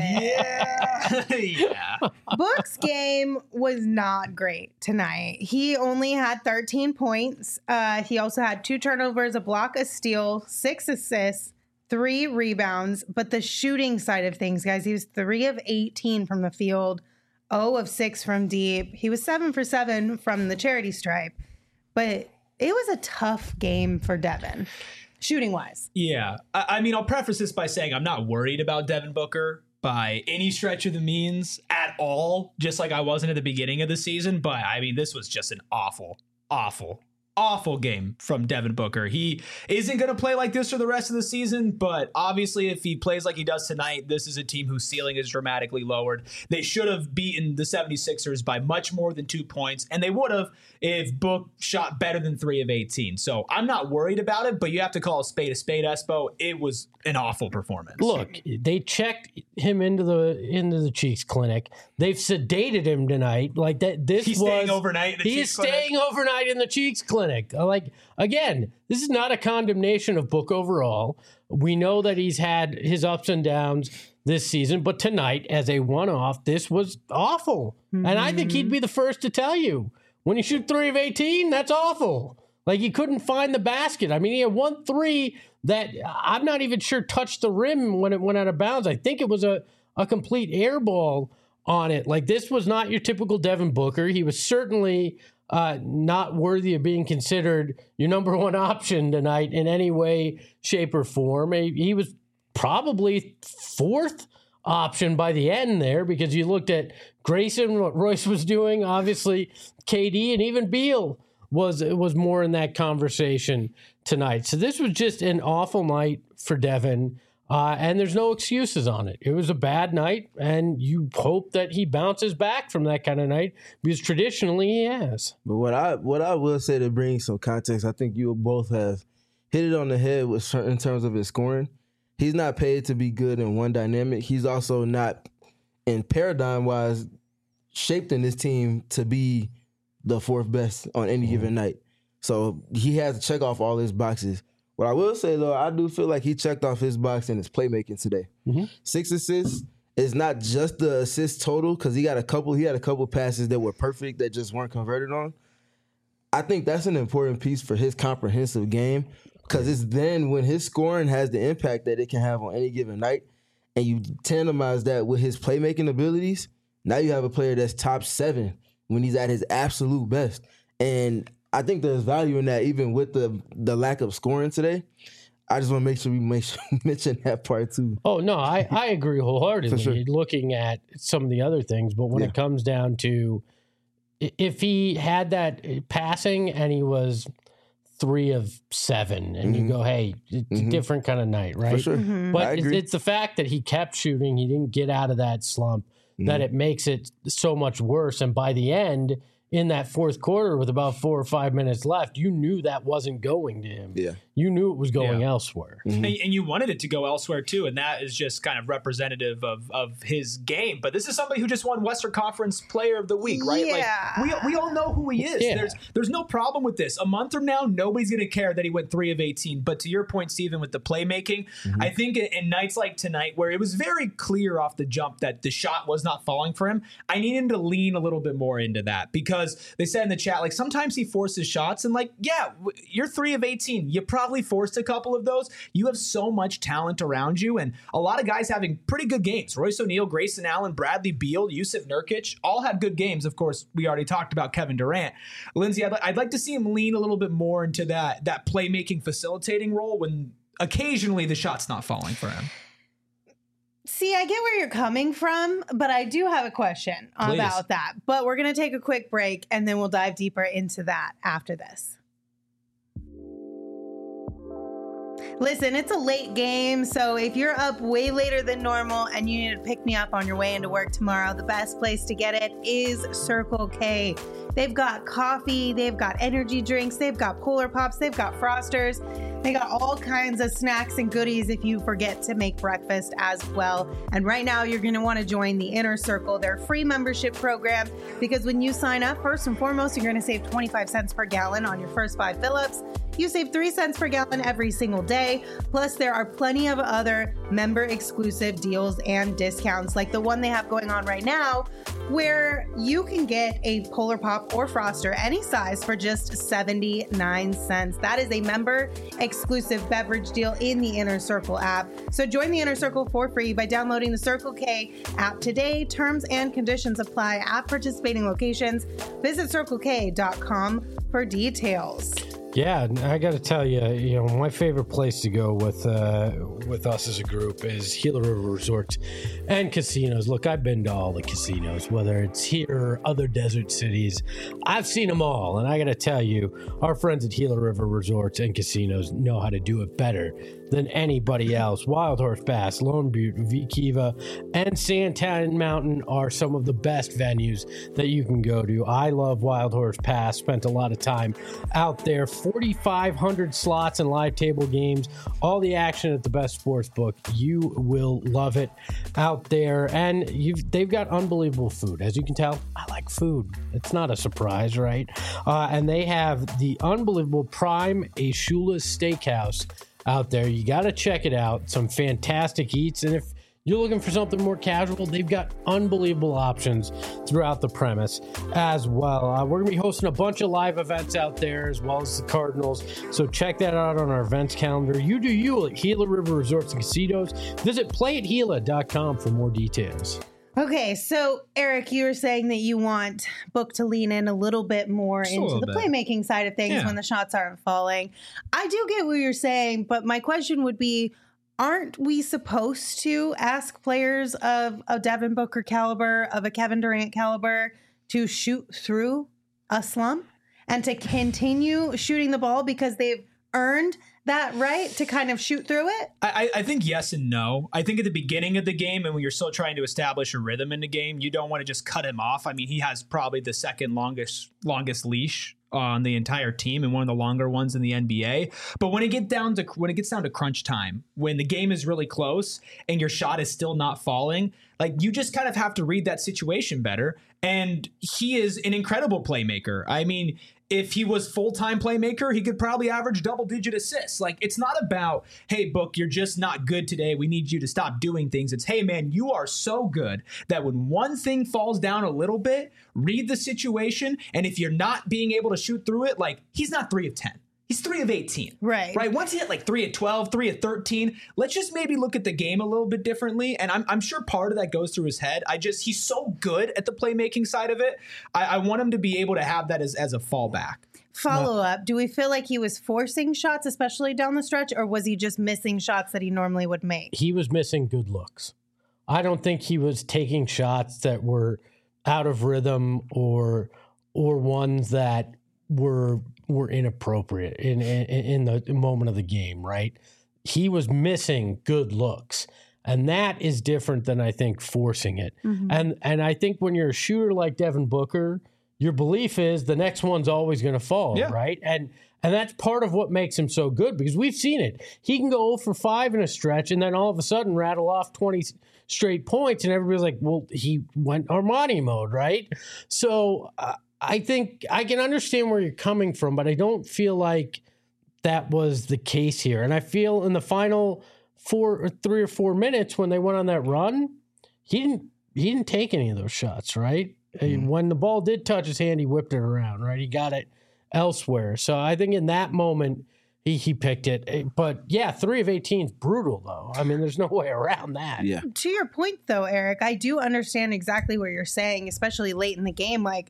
yeah. yeah. Book's game was not great tonight. He only had thirteen points. Uh, he also had two turnovers, a block, a steal, six assists, three rebounds. But the shooting side of things, guys, he was three of eighteen from the field, zero of six from deep. He was seven for seven from the charity stripe. But it was a tough game for Devin, shooting wise. Yeah. I, I mean, I'll preface this by saying I'm not worried about Devin Booker by any stretch of the means at all, just like I wasn't at the beginning of the season. But I mean, this was just an awful, awful, awful game from Devin Booker. He isn't going to play like this for the rest of the season, but obviously if he plays like he does tonight, this is a team whose ceiling is dramatically lowered. They should have beaten the seventy-sixers by much more than two points, and they would have if Book shot better than three of eighteen. So I'm not worried about it, but you have to call a spade a spade, Espo. It was an awful performance. Look, they checked him into the into the Cheeks clinic. They've sedated him tonight. Like that. This He's was staying overnight in the He is Cheeks clinic? staying overnight in the Cheeks clinic. Uh, Like again, this is not a condemnation of Book overall. We know that he's had his ups and downs this season, but tonight, as a one-off, this was awful. Mm-hmm. And I think he'd be the first to tell you when you shoot three of eighteen, that's awful. Like he couldn't find the basket. I mean, he had one three that I'm not even sure touched the rim when it went out of bounds. I think it was a, a complete air ball on it. Like this was not your typical Devin Booker. He was certainly uh, not worthy of being considered your number one option tonight in any way, shape, or form. He, he was probably fourth option by the end there because you looked at Grayson, what Royce was doing, obviously K D, and even Beal was was more in that conversation tonight. So this was just an awful night for Devin, uh, and there's no excuses on it. It was a bad night, and you hope that he bounces back from that kind of night because traditionally he has. But what I what I will say to bring some context, I think you both have hit it on the head with in terms of his scoring. He's not paid to be good in one dynamic. He's also not, in paradigm wise, shaped in this team to be the fourth best on any mm-hmm. given night. So he has to check off all his boxes. What I will say, though, I do feel like he checked off his box in his playmaking today. Mm-hmm. Six assists is not just the assist total because he got a couple. He had a couple passes that were perfect that just weren't converted on. I think that's an important piece for his comprehensive game because it's then when his scoring has the impact that it can have on any given night, and you tandemize that with his playmaking abilities. Now you have a player that's top seven when he's at his absolute best. And I think there's value in that even with the the lack of scoring today. I just want to make sure we make sure we mention that part too. Oh, no, I, I agree wholeheartedly sure. looking at some of the other things. But when Yeah. it comes down to if he had that passing and he was three of seven and Mm-hmm. you go, hey, it's Mhm. a different kind of night, right? For sure. Mm-hmm. I But it's, agree. it's the fact that he kept shooting, he didn't get out of that slump, that Mhm. it makes it so much worse. And by the end, in that fourth quarter with about four or five minutes left, you knew that wasn't going to him. Yeah. You knew it was going Yeah. elsewhere. And, and you wanted it to go elsewhere too, and that is just kind of representative of of his game. But this is somebody who just won Western Conference Player of the Week, right? Yeah. Like we we all know who he is. Yeah. There's there's no problem with this. A month from now, nobody's gonna care that he went three of eighteen. But to your point, Stephen, with the playmaking, I think in, in nights like tonight, where it was very clear off the jump that the shot was not falling for him, I need him to lean a little bit more into that, because they said in the chat, like, sometimes he forces shots, and like, yeah, w- you're three of eighteen. You probably forced a couple of those. You have so much talent around you, and a lot of guys having pretty good games. Royce O'Neal, Grayson Allen, Bradley Beal, Yusuf Nurkic, all had good games. Of course, we already talked about Kevin Durant. Lindsay, I'd, li- I'd like to see him lean a little bit more into that that playmaking, facilitating role when occasionally the shot's not falling for him. See, I get where you're coming from, but I do have a question Please. about that. But we're going to take a quick break, and then we'll dive deeper into that after this. Listen, it's a late game, so if you're up way later than normal and you need to pick me up on your way into work tomorrow, the best place to get it is Circle K. They've got coffee, they've got energy drinks, they've got Polar Pops, they've got Frosters. They got all kinds of snacks and goodies if you forget to make breakfast as well. And right now, you're going to want to join the Inner Circle, their free membership program, because when you sign up, first and foremost, you're going to save twenty-five cents per gallon on your first five fill-ups. You save three cents per gallon every single day. Plus, there are plenty of other member-exclusive deals and discounts, like the one they have going on right now, where you can get a Polar Pop or Froster, any size, for just seventy-nine cents. That is a member-exclusive beverage deal in the Inner Circle app. So join the Inner Circle for free by downloading the Circle K app today. Terms and conditions apply at participating locations. Visit circle k dot com for details. Yeah, I got to tell you, you know, my favorite place to go with uh, with us as a group is Gila River Resorts and Casinos. Look, I've been to all the casinos, whether it's here or other desert cities. I've seen them all, and I got to tell you, our friends at Gila River Resorts and Casinos know how to do it better than anybody else. Wild Horse Pass, Lone Butte, V Kiva, and Santan Mountain are some of the best venues that you can go to. I love Wild Horse Pass. Spent a lot of time out there. forty-five hundred slots and live table games. All the action at the best sports book. You will love it out there. And you've they've got unbelievable food. As you can tell, I like food. It's not a surprise, right? Uh, and they have the unbelievable Prime Ashula's Steakhouse out there. You got to check it out. Some fantastic eats. And if you're looking for something more casual, they've got unbelievable options throughout the premise as well. Uh, we're going to be hosting a bunch of live events out there, as well as the Cardinals. So check that out on our events calendar. You do you at Gila River Resorts and Casinos. Visit play at gila dot com for more details. Okay, so Eric, you were saying that you want Book to lean in a little bit more Just a into little the bit. playmaking side of things Yeah. when the shots aren't falling. I do get what you're saying, but my question would be, aren't we supposed to ask players of a Devin Booker caliber, of a Kevin Durant caliber, to shoot through a slump and to continue shooting the ball because they've earned that right to kind of shoot through it? I, I think yes and no. I think at the beginning of the game, and when you're still trying to establish a rhythm in the game, you don't want to just cut him off. I mean, he has probably the second longest longest leash on the entire team and one of the longer ones in the N B A. But when it get down to when it gets down to crunch time, when the game is really close and your shot is still not falling, like, you just kind of have to read that situation better. And he is an incredible playmaker. I mean, if he was full-time playmaker, he could probably average double-digit assists. Like, it's not about, hey, Book, you're just not good today. We need you to stop doing things. It's, hey, man, you are so good that when one thing falls down a little bit, read the situation. And if you're not being able to shoot through it, like, he's not three of ten. He's three of eighteen. Right. Right. Once he hit like three of twelve, three of thirteen, let's just maybe look at the game a little bit differently. And I'm, I'm sure part of that goes through his head. I just, he's so good at the playmaking side of it. I, I want him to be able to have that as, as a fallback. Follow up. Do we feel like he was forcing shots, especially down the stretch, or was he just missing shots that he normally would make? He was missing good looks. I don't think he was taking shots that were out of rhythm or or ones that were were inappropriate in in, in the moment of the game, right? He was missing good looks. And that is different than, I think, forcing it. Mm-hmm. And and I think when you're a shooter like Devin Booker, your belief is the next one's always going to fall, Yeah. right? And and that's part of what makes him so good because we've seen it. He can go zero for five in a stretch and then all of a sudden rattle off twenty straight points, and everybody's like, well, he went Armani mode, right? So uh, I think I can understand where you're coming from, but I don't feel like that was the case here. And I feel in the final four or three or four minutes when they went on that run, he didn't he didn't take any of those shots, right? Mm-hmm. When the ball did touch his hand, he whipped it around, right? He got it elsewhere. So I think in that moment, he he picked it. But yeah, three of eighteen is brutal, though. I mean, there's no way around that. Yeah. To your point, though, Eric, I do understand exactly what you're saying, especially late in the game. Like,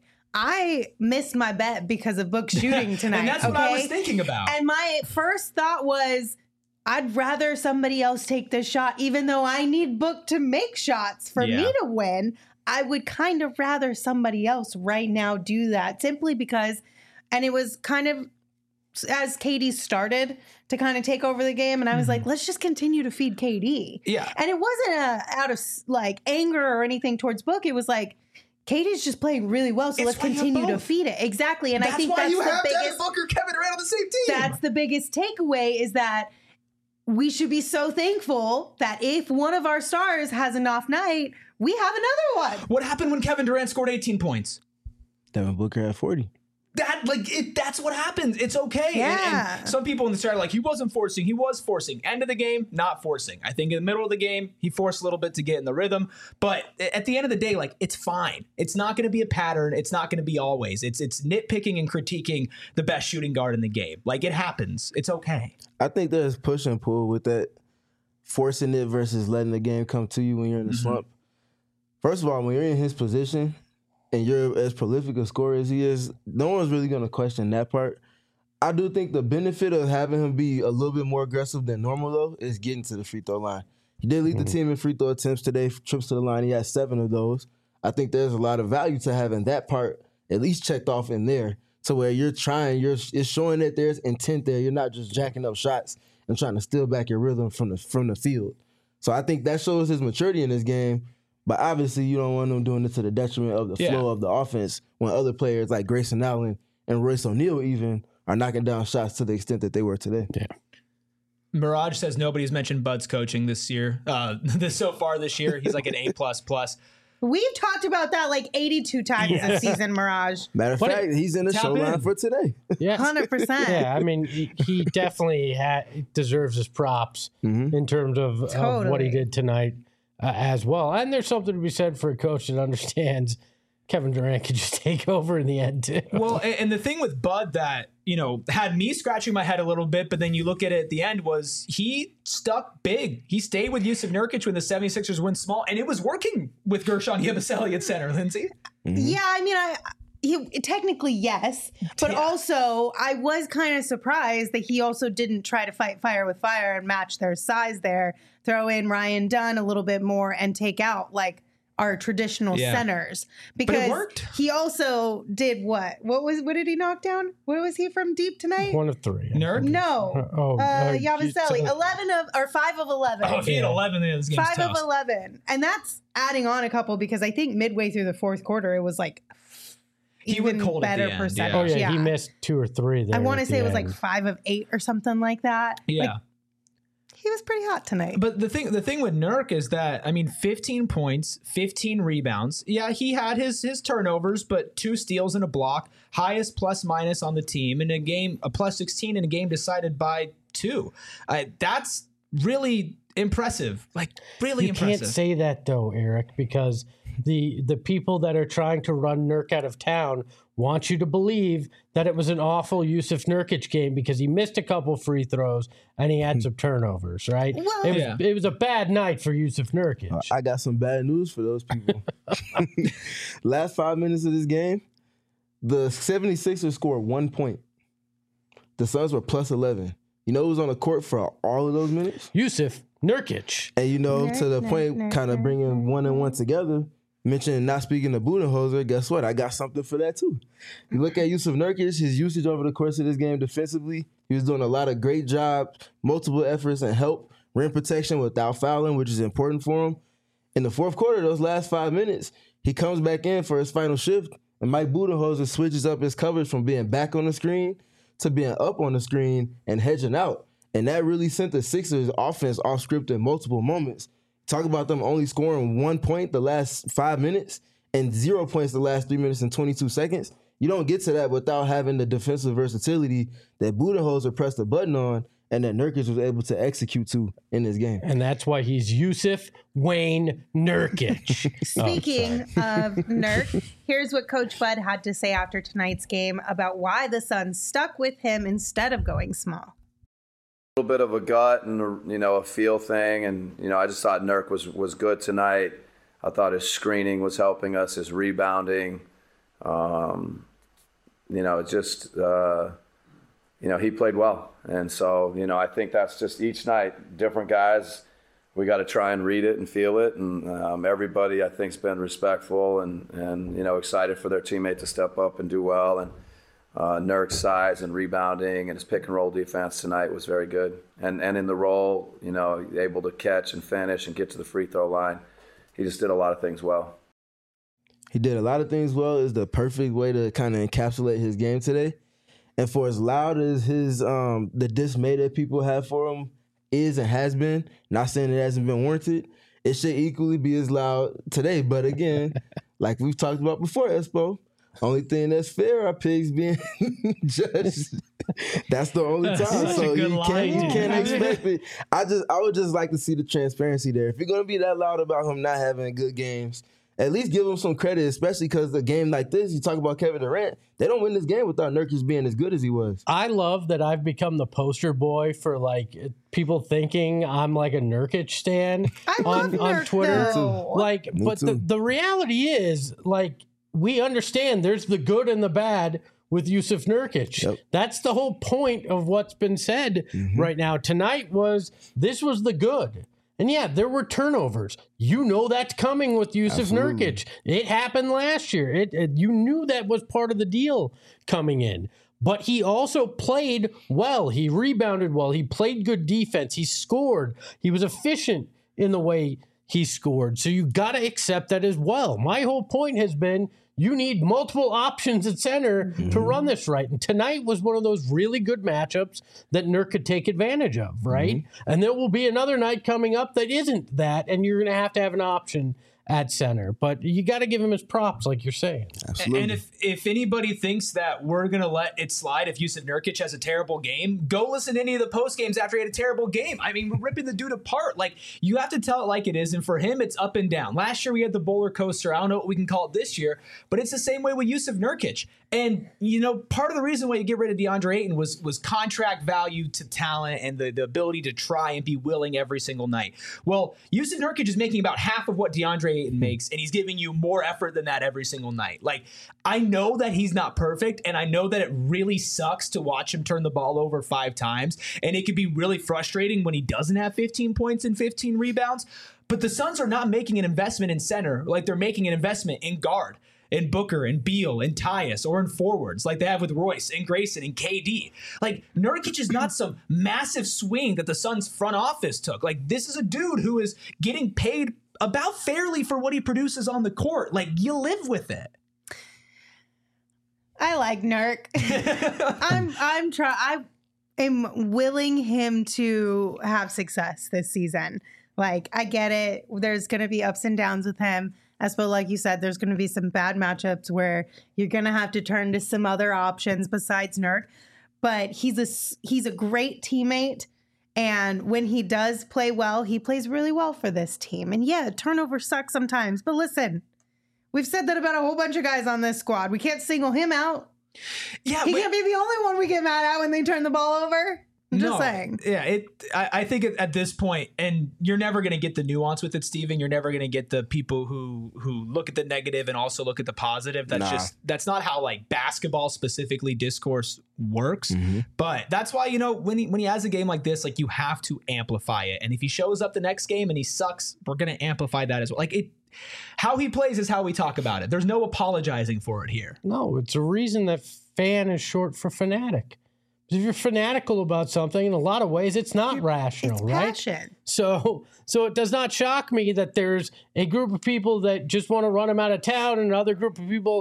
I missed my bet because of Book shooting tonight. And that's okay? what I was thinking about. And my first thought was, I'd rather somebody else take this shot, even though I need Book to make shots for Yeah. me to win. I would kind of rather somebody else right now do that simply because, and it was kind of as K D started to kind of take over the game. And I was Mm-hmm. like, let's just continue to feed K D. Yeah. And it wasn't a, out of like anger or anything towards Book. It was like, K D's just playing really well, so It's let's why you have continue to both. feed it. Exactly. And that's I think why that's you the have Devin biggest Booker, Kevin Durant on the same team. that's the biggest takeaway is that we should be so thankful that if one of our stars has an off night, we have another one. What happened when Kevin Durant scored eighteen points? Devin Booker at forty. That like it, that's what happens. It's okay. And- Yeah. And, some people in the start are like, he wasn't forcing. He was forcing. End of the game, not forcing. I think in the middle of the game, he forced a little bit to get in the rhythm. But at the end of the day, like it's fine. It's not going to be a pattern. It's not going to be always. It's it's nitpicking and critiquing the best shooting guard in the game. Like it happens. It's okay. I think there's push and pull with that, forcing it versus letting the game come to you when you're in the Mm-hmm. slump. First of all, when you're in his position and you're as prolific a scorer as he is, no one's really going to question that part. I do think the benefit of having him be a little bit more aggressive than normal, though, is getting to the free throw line. He did lead the team in free throw attempts today, trips to the line. He had seven of those. I think there's a lot of value to having that part at least checked off in there, to where you're trying, you're it's showing that there's intent there. You're not just jacking up shots and trying to steal back your rhythm from the from the field. So I think that shows his maturity in this game. But obviously, you don't want him doing it to the detriment of the Yeah. flow of the offense when other players like Grayson Allen and Royce O'Neal even are knocking down shots to the extent that they were today. Yeah. Mirage says nobody's mentioned Bud's coaching this year. Uh, this so far this year, he's like an A plus plus. We've talked about that like eighty-two times Yeah. this season, Mirage. Matter of But fact, he's in the tap show line in. for today. Yeah. one hundred percent. Yeah, I mean, he, he definitely ha- deserves his props in terms of, of what Totally. he did tonight uh, as well. And there's something to be said for a coach that understands Kevin Durant could just take over in the end, too. Well, and, and the thing with Bud that, you know, had me scratching my head a little bit, but then you look at it at the end was he stuck big. He stayed with Yusuf Nurkic when the 76ers went small, and it was working with Gershon Yabusele at center, Lindsay. Yeah, I mean, I he technically yes, but Yeah. also I was kind of surprised that he also didn't try to fight fire with fire and match their size there. Throw in Ryan Dunn a little bit more and take out like our traditional Yeah. centers because worked. he also did what? What was what did he knock down? Where was he from deep tonight? One of three. Nurk? No, Oh, uh, uh, Yabusele, you- eleven of or five of eleven. Oh, if he had Yeah. eleven, then this game's Five tough. of eleven, and that's adding on a couple because I think midway through the fourth quarter it was like He even went cold at better the end, percentage. Oh, yeah, he missed two or three there. I want to at say the it was like end. five of eight or something like that. Yeah. Like, he was pretty hot tonight. But the thing, the thing with Nurk is that I mean, fifteen points, fifteen rebounds. Yeah, he had his his turnovers, but two steals and a block, highest plus minus on the team in a game, a plus sixteen in a game decided by two. Uh, that's really impressive. Like really You impressive. can't say that though, Eric, because the the people that are trying to run Nurk out of town want you to believe that it was an awful Yusuf Nurkic game because he missed a couple free throws and he had some turnovers, right? Well- it was Yeah. it was a bad night for Yusuf Nurkic. I got some bad news for those people. Last five minutes of this game, the 76ers scored one point. The Suns were plus eleven. You know who was on the court for all of those minutes? Yusuf Nurkic. And you know, to the Nurk, point, nurk, kind of nurk, bringing one and one together, mentioning not speaking to Budenholzer, guess what? I got something for that too. You look at Yusuf Nurkic, his usage over the course of this game defensively, he was doing a lot of great job, multiple efforts and help, rim protection without fouling, which is important for him. In the fourth quarter, those last five minutes, he comes back in for his final shift, And Mike Budenholzer switches up his coverage from being back on the screen to being up on the screen and hedging out. And that really sent the Sixers offense off script in multiple moments. Talk about them only scoring one point the last five minutes and zero points the last three minutes and twenty-two seconds. You don't get to that without having the defensive versatility that Budenholzer pressed the button on and that Nurkic was able to execute to in this game. And that's why he's Yusuf Wayne Nurkic. Speaking oh, of Nurk, here's what Coach Bud had to say after tonight's game about why the Suns stuck with him instead of going small. A little bit of a gut and a, you know, a feel thing, and you know, I just thought Nurk was was good tonight. I thought his screening was helping us, his rebounding. Um, you know, just uh, you know, he played well, and so you know, I think that's just each night, different guys. We got to try and read it and feel it, and um, everybody I think's been respectful and and you know, excited for their teammate to step up and do well. And Uh, Nurk's size and rebounding and his pick and roll defense tonight was very good. And and in the role, you know, able to catch and finish and get to the free throw line. He just did a lot of things well. He did a lot of things well. Is the perfect way to kind of encapsulate his game today. And for as loud as his um, the dismay that people have for him is and has been, not saying it hasn't been warranted, it should equally be as loud today. But again, like we've talked about before, Espo, only thing that's fair are pigs being judged. That's the only time. That's so you line, can't, you dude. can't expect it. I just I would just like to see the transparency there. If you're gonna be that loud about him not having good games, at least give him some credit, especially because the game like this, you talk about Kevin Durant, they don't win this game without Nurkic being as good as he was. I love that I've become the poster boy for like people thinking I'm like a Nurkic stan I on, love on Nurk, Twitter. though. Like, Me but the, too. the reality is, like, we understand there's the good and the bad with Yusuf Nurkic. Yep. That's the whole point of what's been said Mm-hmm. right now. Tonight was, this was the good. And yeah, there were turnovers. You know that's coming with Yusuf Absolutely. Nurkic. It happened last year. It, it you knew that was part of the deal coming in. But he also played well. He rebounded well. He played good defense. He scored. He was efficient in the way he scored. So you got to accept that as well. My whole point has been you need multiple options at center mm-hmm. to run this right. And tonight was one of those really good matchups that Nurk could take advantage of, right? Mm-hmm. And there will be another night coming up that isn't that, and you're going to have to have an option at center. But you got to give him his props, like you're saying. Absolutely. And if, if anybody thinks that we're going to let it slide if Yusuf Nurkic has a terrible game, go listen to any of the post games after he had a terrible game. I mean, we're ripping the dude apart. Like, you have to tell it like it is. And for him, it's up and down. Last year, we had the roller coaster. I don't know what we can call it this year, but it's the same way with Yusuf Nurkic. And, you know, part of the reason why you get rid of DeAndre Ayton was was contract value to talent and the, the ability to try and be willing every single night. Well, Yusuf Nurkic is making about half of what DeAndre Ayton makes, and he's giving you more effort than that every single night. Like, I know that he's not perfect, and I know that it really sucks to watch him turn the ball over five times, and it can be really frustrating when he doesn't have fifteen points and fifteen rebounds. But the Suns are not making an investment in center like they're making an investment in guard. In Booker and Beal and Tyus, or in forwards like they have with Royce and Grayson and K D. Like, Nurkic is not some massive swing that the Suns front office took. Like, this is a dude who is getting paid about fairly for what he produces on the court. Like, you live with it. I like Nurk. I'm I'm try I am willing him to have success this season. Like, I get it. There's going to be ups and downs with him. Espo, like you said, there's going to be some bad matchups where you're going to have to turn to some other options besides Nurk. But he's a, he's a great teammate. And when he does play well, he plays really well for this team. And yeah, turnover sucks sometimes. But listen, we've said that about a whole bunch of guys on this squad. We can't single him out. Yeah, he but- can't be the only one we get mad at when they turn the ball over. I'm just no, saying. Yeah, it. I, I think at, at this point, and you're never going to get the nuance with it, Steven. You're never going to get the people who who look at the negative and also look at the positive. That's Nah. just that's not how like basketball specifically discourse works. Mm-hmm. But that's why, you know, when he when he has a game like this, like, you have to amplify it. And if he shows up the next game and he sucks, we're going to amplify that as well. Like, it. How he plays is how we talk about it. There's no apologizing for it here. No, it's a reason that fan is short for fanatic. If you're fanatical about something, in a lot of ways, it's not rational, It's right? passion. So, so it does not shock me that there's a group of people that just want to run him out of town, and another group of people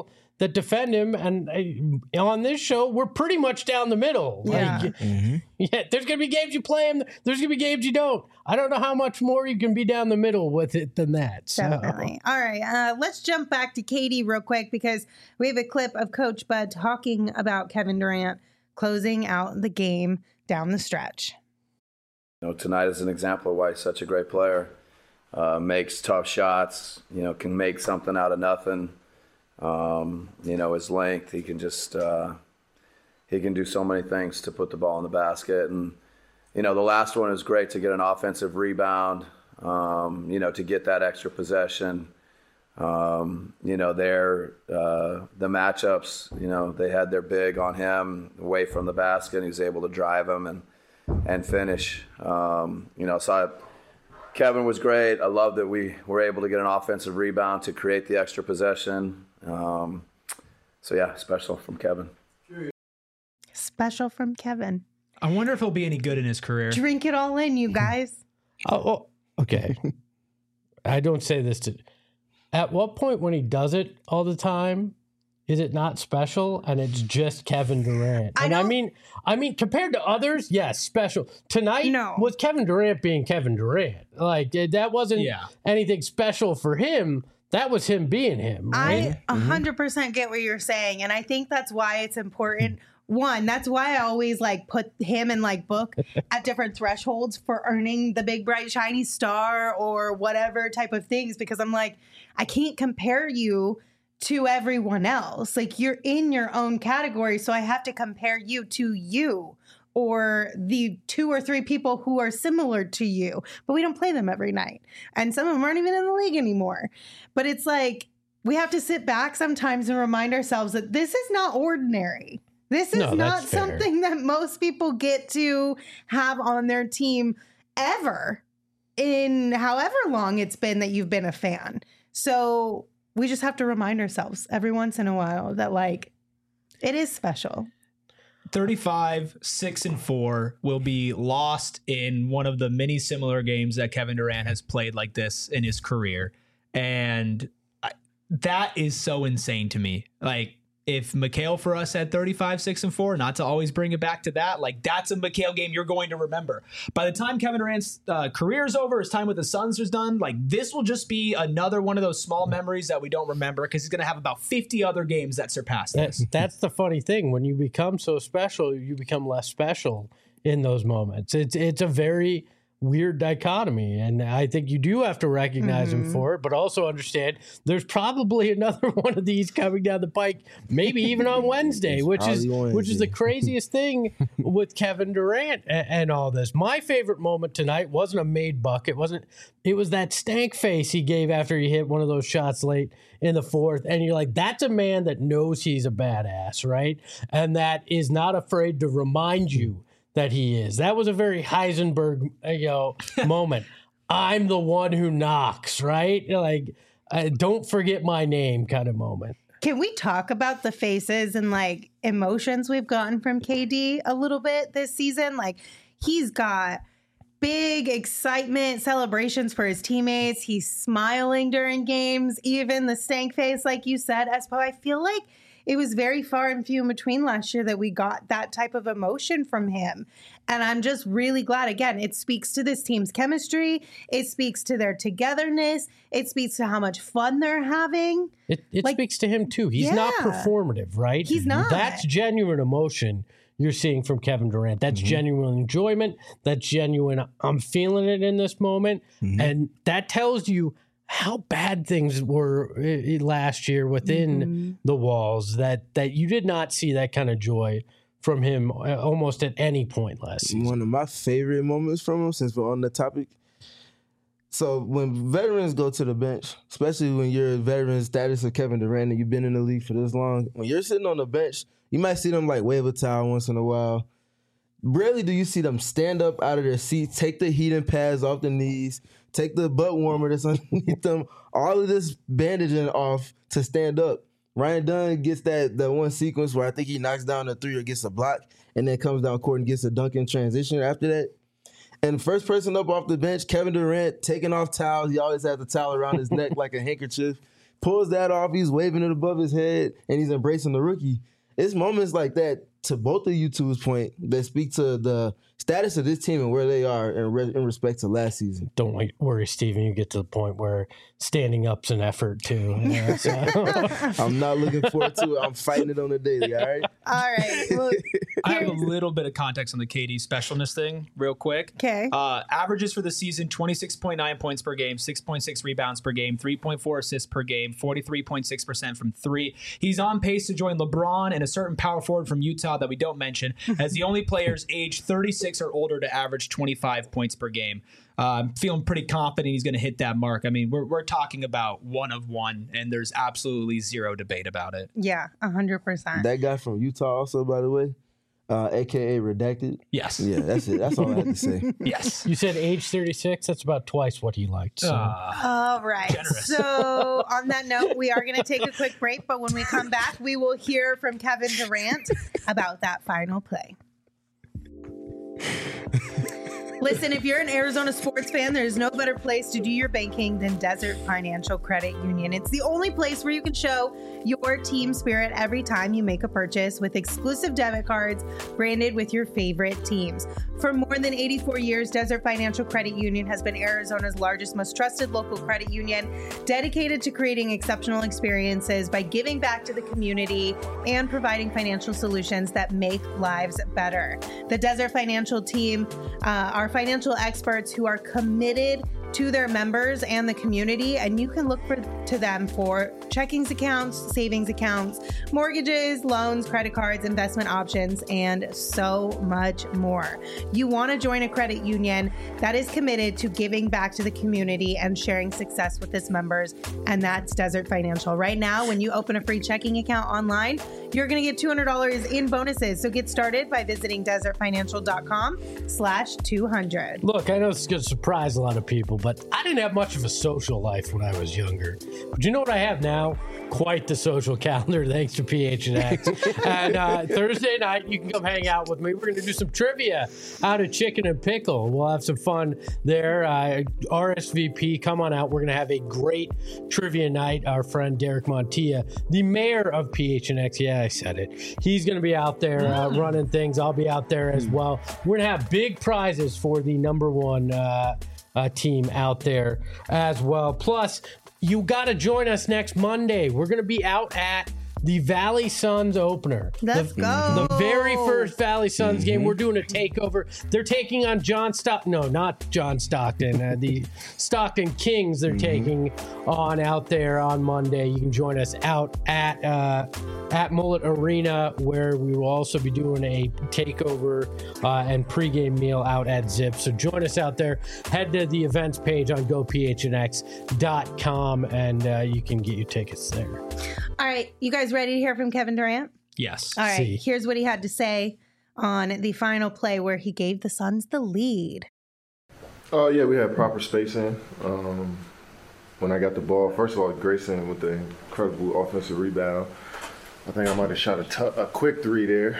that defend him. And uh, on this show, we're pretty much down the middle. Yeah. Like, mm-hmm. yeah, there's going to be games you play him. There's going to be games you don't. I don't know how much more you can be down the middle with it than that. So. Definitely. All right. Uh, let's jump back to K D real quick because we have a clip of Coach Bud talking about Kevin Durant closing out the game down the stretch. You know, tonight is an example of why he's such a great player. Uh, makes tough shots, you know, can make something out of nothing. Um, you know, his length, he can just, uh, he can do so many things to put the ball in the basket. And, you know, the last one is great to get an offensive rebound, um, you know, to get that extra possession. Um, you know, their, uh, the matchups, you know, they had their big on him away from the basket, and he was able to drive him and, and finish. Um, you know, so I, Kevin was great. I love that we were able to get an offensive rebound to create the extra possession. Um, so, yeah, special from Kevin. Special from Kevin. I wonder if he'll be any good in his career. Drink it all in, you guys. Oh, oh, okay. I don't say this to... At what point when he does it all the time, is it not special and it's just Kevin Durant? I and I don't- mean, I mean, compared to others, yes, special. Tonight No. was Kevin Durant being Kevin Durant. Like that wasn't Yeah. anything special for him. That was him being him. Right? I one hundred percent get what you're saying. And I think that's why it's important. One, that's why I always like put him in like book at different thresholds for earning the big, bright, shiny star or whatever type of things, because I'm like, I can't compare you to everyone else. Like you're in your own category. So I have to compare you to you or the two or three people who are similar to you, but we don't play them every night. And some of them aren't even in the league anymore. But it's like, we have to sit back sometimes and remind ourselves that this is not ordinary. This is No, not that's fair. something that most people get to have on their team ever in however long it's been that you've been a fan. So we just have to remind ourselves every once in a while that like it is special. thirty-five, six, and four will be lost in one of the many similar games that Kevin Durant has played like this in his career. And I, that is so insane to me. Like, if Mikal for us had thirty-five, six, and four, not to always bring it back to that, like that's a Mikal game you're going to remember. By the time Kevin Durant's uh, career is over, his time with the Suns is done, like this will just be another one of those small memories that we don't remember because he's going to have about fifty other games that surpass this. That's, that's the funny thing. When you become so special, you become less special in those moments. It's it's a very weird dichotomy, and I think you do have to recognize Mm-hmm. him for it, but also understand there's probably another one of these coming down the pike, maybe even on Wednesday, which is Probably which is the Wednesday. craziest thing with Kevin Durant and, and all this. My favorite moment tonight wasn't a made bucket, wasn't it was that stank face he gave after he hit one of those shots late in the fourth, and you're like, that's a man that knows he's a badass, right? And that is not afraid to remind you that he is. That was a very Heisenberg, uh, you know, moment. I'm the one who knocks, right? Like, uh, don't forget my name kind of moment. Can we talk about the faces and like emotions we've gotten from K D a little bit this season? Like he's got big excitement, celebrations for his teammates. He's smiling during games, even the stank face, like you said, Espo. I feel like it was very far and few in between last year that we got that type of emotion from him. And I'm just really glad. Again, it speaks to this team's chemistry. It speaks to their togetherness. It speaks to how much fun they're having. It, it Like, speaks to him too. He's not yeah. performative, right? He's not. That's genuine emotion you're seeing from Kevin Durant. That's genuine enjoyment. That's genuine, I'm feeling it in this moment. And that tells you how bad things were uh, last year within Mm-hmm. the walls, that that you did not see that kind of joy from him uh, almost at any point last season. One of my favorite moments from him, since we're on the topic. So when veterans go to the bench, especially when you're a veteran status of Kevin Durant and you've been in the league for this long, when you're sitting on the bench, you might see them like wave a towel once in a while. Rarely do you see them stand up out of their seats, take the heating pads off the knees, take the butt warmer that's underneath them, all of this bandaging off to stand up. Ryan Dunn gets that, that one sequence where I think he knocks down a three or gets a block and then comes down court and gets a dunk in transition after that. And first person up off the bench, Kevin Durant, taking off towels. He always has the towel around his neck like a handkerchief, pulls that off. He's waving it above his head, and he's embracing the rookie. It's moments like that, to both of you two's point, that speak to the status of this team and where they are in, re- in respect to last season. Don't like, worry, Steven. You get to the point where standing up's an effort too. You know, so. I'm not looking forward to it. I'm fighting it on the daily. All right. All right. Well, I have a little bit of context on the K D specialness thing, real quick. Okay. Uh, averages for the season: twenty-six point nine points per game, six point six rebounds per game, three point four assists per game, forty-three point six percent from three. He's on pace to join LeBron and a certain power forward from Utah that we don't mention as the only players aged thirty-six or older to average twenty-five points per game. Uh, I'm feeling pretty confident he's going to hit that mark. I mean, we're we're talking about one of one, and there's absolutely zero debate about it. yeah, one hundred percent. That guy from Utah, also, by the way, uh, A K A Redacted. Yes. Yeah, that's it. That's all I had to say. Yes. You said age thirty-six. That's about twice what he liked. So. Uh, All right. Generous. So on that note, we are going to take a quick break, but when we come back, we will hear from Kevin Durant about that final play. Listen, if you're an Arizona sports fan, there's no better place to do your banking than Desert Financial Credit Union. It's the only place where you can show your team spirit every time you make a purchase with exclusive debit cards branded with your favorite teams. For more than eighty-four years, Desert Financial Credit Union has been Arizona's largest, most trusted local credit union, dedicated to creating exceptional experiences by giving back to the community and providing financial solutions that make lives better. The Desert Financial team uh, are financial experts who are committed to their members and the community, and you can look for to them for checkings accounts, savings accounts, mortgages, loans, credit cards, investment options, and so much more. You want to join a credit union that is committed to giving back to the community and sharing success with its members, and that's Desert Financial. Right now, when you open a free checking account online, you're going to get two hundred dollars in bonuses. So get started by visiting desertfinancial.com slash 200. Look, I know this is going to surprise a lot of people, but I didn't have much of a social life when I was younger. But you know what I have now? Quite the social calendar, thanks to P H N X. And uh, Thursday night, you can come hang out with me. We're going to do some trivia out of Chicken and Pickle. We'll have some fun there. Uh, R S V P, come on out. We're going to have a great trivia night. Our friend Derek Montilla, the mayor of P H N X, yeah, I said it. He's going to be out there uh, running things. I'll be out there as well. We're going to have big prizes for the number one uh, uh, team out there as well. Plus, you got to join us next Monday. We're going to be out at the Valley Suns opener. Let's the, go. The very first Valley Suns mm-hmm. game. We're doing a takeover. They're taking on John Stockton. No, not John Stockton. Uh, the Stockton Kings they're mm-hmm. taking on out there on Monday. You can join us out at uh, at Mullet Arena, where we will also be doing a takeover uh, and pregame meal out at Zip. So join us out there. Head to the events page on go p h n x dot com and uh, you can get your tickets there. All right, you guys ready to hear from Kevin Durant? Yes. All right, See. Here's what he had to say on the final play where he gave the Suns the lead. Oh, yeah, we had proper spacing. Um, when I got the ball, first of all, Grayson with the incredible offensive rebound. I think I might have shot a, t- a quick three there,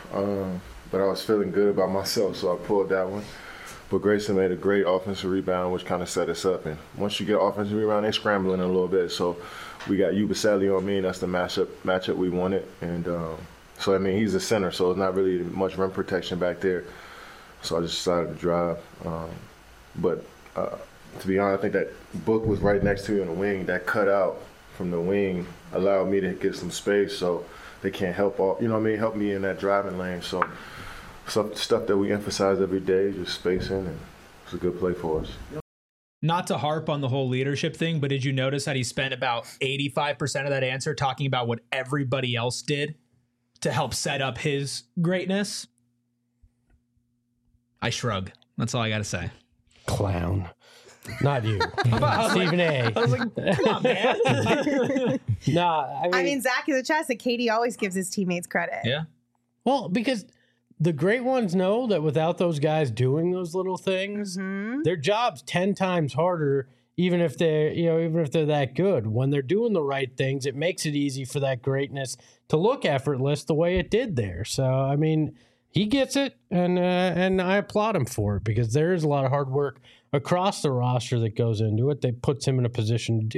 um, but I was feeling good about myself, so I pulled that one. But Grayson made a great offensive rebound, which kind of set us up. And once you get offensive rebound, they're scrambling a little bit. So we got Yubaseli on me, and that's the matchup matchup we wanted. And um, so, I mean, he's a center, so it's not really much rim protection back there. So I just decided to drive. Um, but uh, to be honest, I think that Book was right next to you in the wing. That cutout from the wing allowed me to get some space, so they can't help all, you know what I mean, help me in that driving lane. So some stuff that we emphasize every day, just spacing, and it's a good play for us. Not to harp on the whole leadership thing, but did you notice that he spent about eighty-five percent of that answer talking about what everybody else did to help set up his greatness? I shrug. That's all I got to say. Clown. Not you. about, Stephen like, A. I was like, come on, man. nah, I mean, I mean, Zach is a chest that Katie always gives his teammates credit. Yeah. well, because the great ones know that without those guys doing those little things, Mm-hmm. their job's ten times harder, even if they're, you know, even if they're that good. When they're doing the right things, it makes it easy for that greatness to look effortless the way it did there. So, I mean, he gets it, and uh, and I applaud him for it, because there is a lot of hard work across the roster that goes into it that puts him in a position to do that.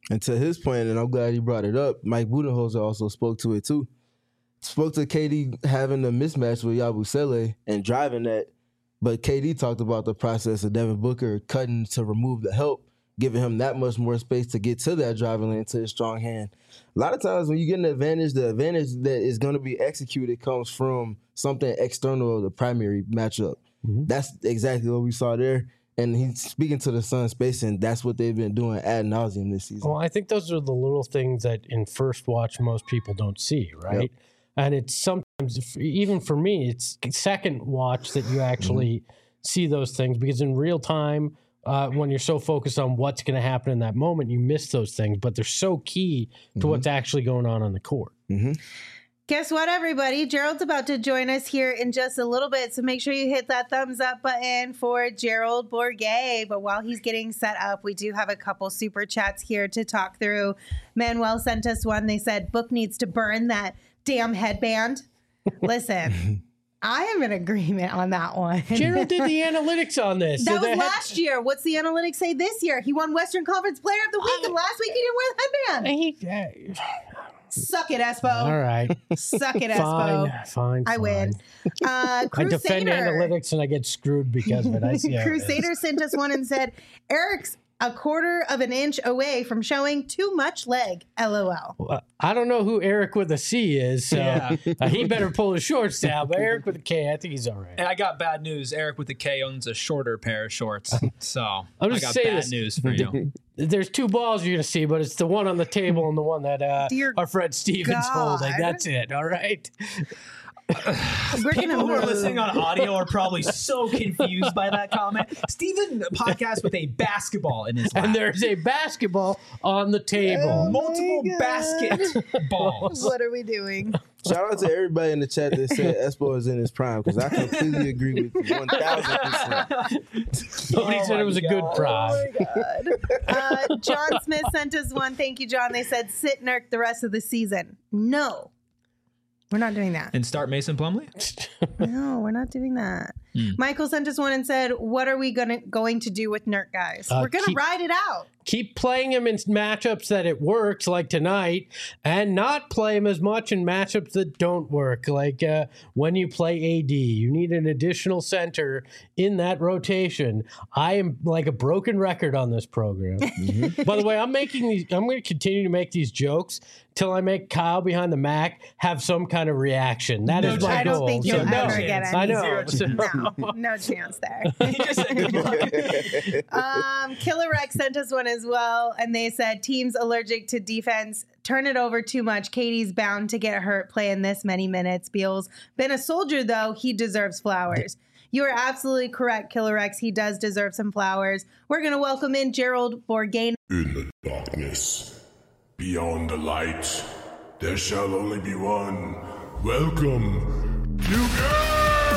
And to his point, and I'm glad he brought it up, Mike Budenholzer also spoke to it too. Spoke to K D having a mismatch with Yabusele and driving that, but K D talked about the process of Devin Booker cutting to remove the help, giving him that much more space to get to that driving lane, to his strong hand. A lot of times when you get an advantage, the advantage that is going to be executed comes from something external of the primary matchup. Mm-hmm. That's exactly what we saw there. And he's speaking to the Suns spacing. That's what they've been doing ad nauseum this season. Well, I think those are the little things that in first watch most people don't see, right? Yep. And it's sometimes, even for me, it's second watch that you actually mm-hmm. see those things, because in real time, uh, when you're so focused on what's going to happen in that moment, you miss those things. But they're so key to mm-hmm. what's actually going on on the court. Mm-hmm. Guess what, everybody? Gerald's about to join us here in just a little bit, so make sure you hit that thumbs up button for Gerald Bourguet. But while he's getting set up, we do have a couple super chats here to talk through. Manuel sent us one. They said, Book needs to burn that damn headband. Listen, I am in agreement on that one. Gerald did the analytics on this. That so was last had... year. What's the analytics say this year? He won Western Conference Player of the Week, uh, and last week he didn't wear the headband. He... Uh, Suck it, Espo. All right. Suck it, Espo. Fine, fine, I fine. win. Uh, I defend analytics and I get screwed because of it. I see Crusader sent us one and said, Eric's a quarter of an inch away from showing too much leg. LOL. Well, I don't know who Eric with a C is, so Yeah. uh, he better pull his shorts down. But Eric with a K, I think he's all right. And I got bad news. Eric with the K owns a shorter pair of shorts. So I'm I just got saying bad this. news for you. There's two balls you're going to see, but it's the one on the table and the one that uh, our friend Steven's God. holding. That's it. All right. We're People gonna who are move. listening on audio are probably so confused by that comment. Steven podcast with a basketball in his lap. And there's a basketball on the table. Oh multiple my God. basketballs. What are we doing? Shout out to everybody in the chat that said Espo is in his prime, because I completely agree with you one thousand percent. Nobody Oh said my it was a good God. prime. God. Uh, John Smith sent us one. Thank you, John. They said sit Nurk the rest of the season. No, we're not doing that. And start Mason Plumlee? No, we're not doing that. Mm. Michael sent us one and said, what are we gonna going to do with Nurk, guys? Uh, we're going to keep- ride it out. Keep playing him in matchups that it works, like tonight, and not play him as much in matchups that don't work, like uh, when you play A D. You need an additional center in that rotation. I am like a broken record on this program. Mm-hmm. By the way, I'm making these. I'm going to continue to make these jokes till I make Kyle behind the Mac have some kind of reaction. That No is my I goal. don't think So you'll no ever chance. get any. I know. Zero chance. No, no chance there. He just said good luck. Um, Killer Rex sent us one as well, and they said teams allergic to defense turn it over too much. Katie's bound to get hurt playing this many minutes. Beal's been a soldier though; he deserves flowers. You are absolutely correct, Killer Rex. He does deserve some flowers. We're gonna welcome in Gerald Bourguet. In the darkness, beyond the light, there shall only be one. Welcome to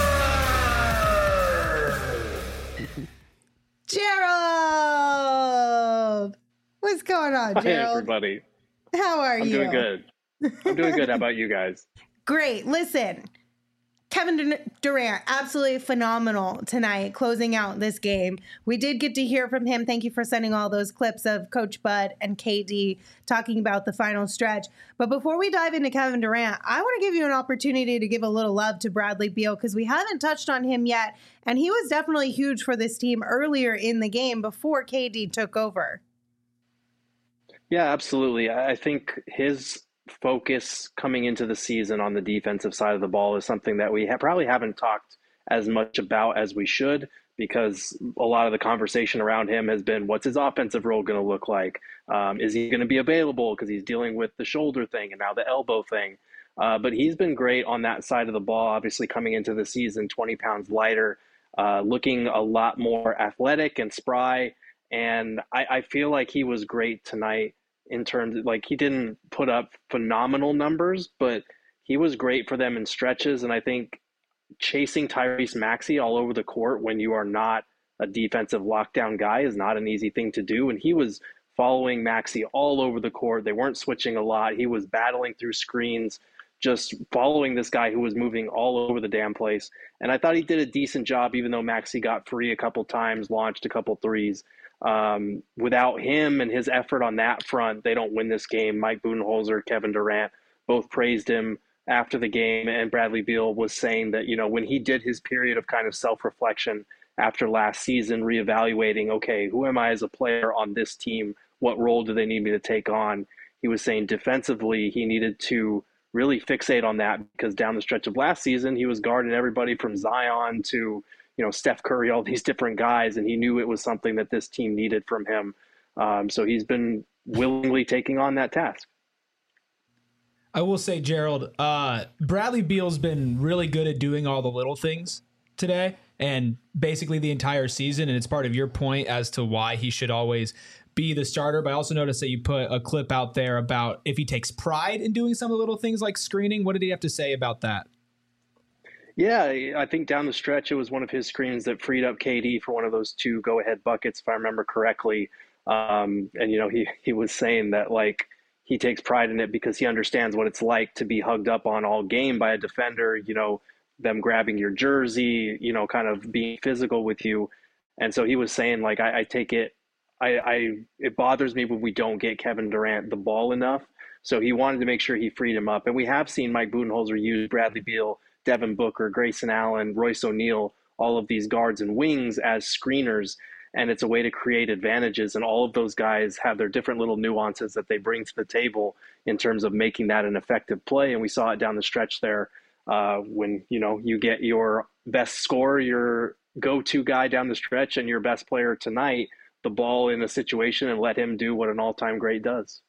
Gerald, what's going on, Hi, Gerald? everybody. How are I'm you? doing good. I'm doing good. How about you guys? Great. Listen, Kevin Dur- Durant, absolutely phenomenal tonight, closing out this game. We did get to hear from him. Thank you for sending all those clips of Coach Bud and K D talking about the final stretch. But before we dive into Kevin Durant, I want to give you an opportunity to give a little love to Bradley Beal, because we haven't touched on him yet. And he was definitely huge for this team earlier in the game before K D took over. Yeah, absolutely. I I think his focus coming into the season on the defensive side of the ball is something that we ha- probably haven't talked as much about as we should, because a lot of the conversation around him has been, what's his offensive role going to look like? Um, is he going to be available because he's dealing with the shoulder thing and now the elbow thing? Uh, but he's been great on that side of the ball, obviously coming into the season twenty pounds lighter, uh, looking a lot more athletic and spry. And I, I feel like he was great tonight in terms of, like, he didn't put up phenomenal numbers, but he was great for them in stretches. And I think chasing Tyrese Maxey all over the court when you are not a defensive lockdown guy is not an easy thing to do. And he was following Maxey all over the court. They weren't switching a lot. He was battling through screens, just following this guy who was moving all over the damn place. And I thought he did a decent job, even though Maxey got free a couple times, launched a couple threes. Um, without him and his effort on that front, they don't win this game. Mike Budenholzer, Kevin Durant both praised him after the game, and Bradley Beal was saying that, you know, when he did his period of kind of self-reflection after last season, reevaluating, okay, who am I as a player on this team? What role do they need me to take on? He was saying defensively, he needed to really fixate on that, because down the stretch of last season, he was guarding everybody from Zion to, you know, Steph Curry, all these different guys, and he knew it was something that this team needed from him. Um, so he's been willingly taking on that task. I will say, Gerald, uh, Bradley Beal's been really good at doing all the little things today and basically the entire season. And it's part of your point as to why he should always be the starter. But I also noticed that you put a clip out there about if he takes pride in doing some of the little things like screening. What did he have to say about that? Yeah, I think down the stretch, it was one of his screens that freed up K D for one of those two go-ahead buckets, if I remember correctly. Um, and, you know, he, he was saying that, like, he takes pride in it because he understands what it's like to be hugged up on all game by a defender, you know, them grabbing your jersey, you know, kind of being physical with you. And so he was saying, like, I, I take it, I, I, it bothers me when we don't get Kevin Durant the ball enough. So he wanted to make sure he freed him up. And we have seen Mike Budenholzer use Bradley Beal, Devin Booker, Grayson Allen, Royce O'Neal, all of these guards and wings as screeners. And it's a way to create advantages. And all of those guys have their different little nuances that they bring to the table in terms of making that an effective play. And we saw it down the stretch there uh, when, you know, you get your best scorer, your go-to guy down the stretch, and your best player tonight, the ball in a situation, and let him do what an all-time great does.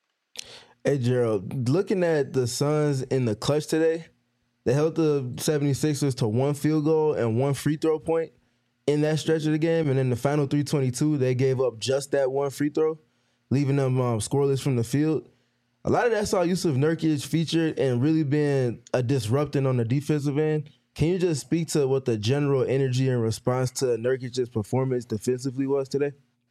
Hey, Gerald, looking at the Suns in the clutch today, they held the seventy-sixers to one field goal and one free throw point in that stretch of the game. And in the final three twenty-two, they gave up just that one free throw, leaving them um, scoreless from the field. A lot of that saw Yusuf Nurkic featured and really being a disrupting on the defensive end. Can you just speak to what the general energy and response to Nurkic's performance defensively was today?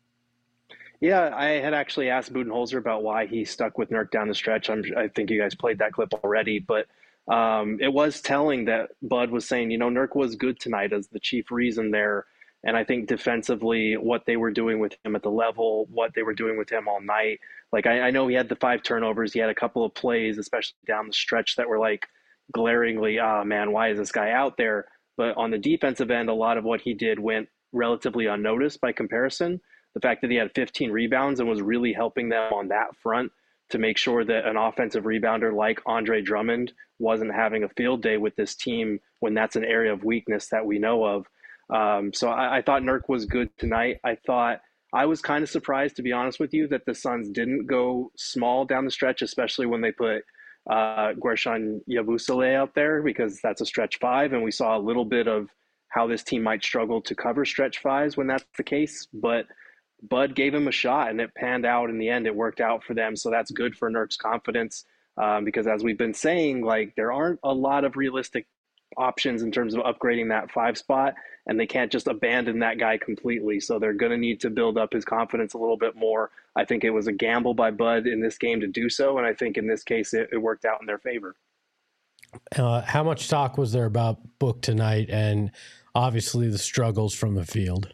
Yeah, I had actually asked Budenholzer about why he stuck with Nurk down the stretch. I'm, I think you guys played that clip already, but um, it was telling that Bud was saying, you know, Nurk was good tonight as the chief reason there. And I think defensively, what they were doing with him at the level, what they were doing with him all night. Like, I, I know he had the five turnovers. He had a couple of plays, especially down the stretch, that were like glaringly, ah, oh, man, why is this guy out there? But on the defensive end, a lot of what he did went relatively unnoticed by comparison. The fact that he had fifteen rebounds and was really helping them on that front to make sure that an offensive rebounder like Andre Drummond wasn't having a field day with this team when that's an area of weakness that we know of. Um, so I, I thought Nurk was good tonight. I thought I was kind of surprised, to be honest with you, that the Suns didn't go small down the stretch, especially when they put uh, Guerschon Yabusele out there, because that's a stretch five. And we saw a little bit of how this team might struggle to cover stretch fives when that's the case. But Bud gave him a shot, and it panned out in the end. It worked out for them. So that's good for Nurk's confidence um, because, as we've been saying, like, there aren't a lot of realistic options in terms of upgrading that five spot, and they can't just abandon that guy completely. So they're going to need to build up his confidence a little bit more. I think it was a gamble by Bud in this game to do so, and I think in this case it, it worked out in their favor. Uh, how much talk was there about Book tonight, and obviously the struggles from the field?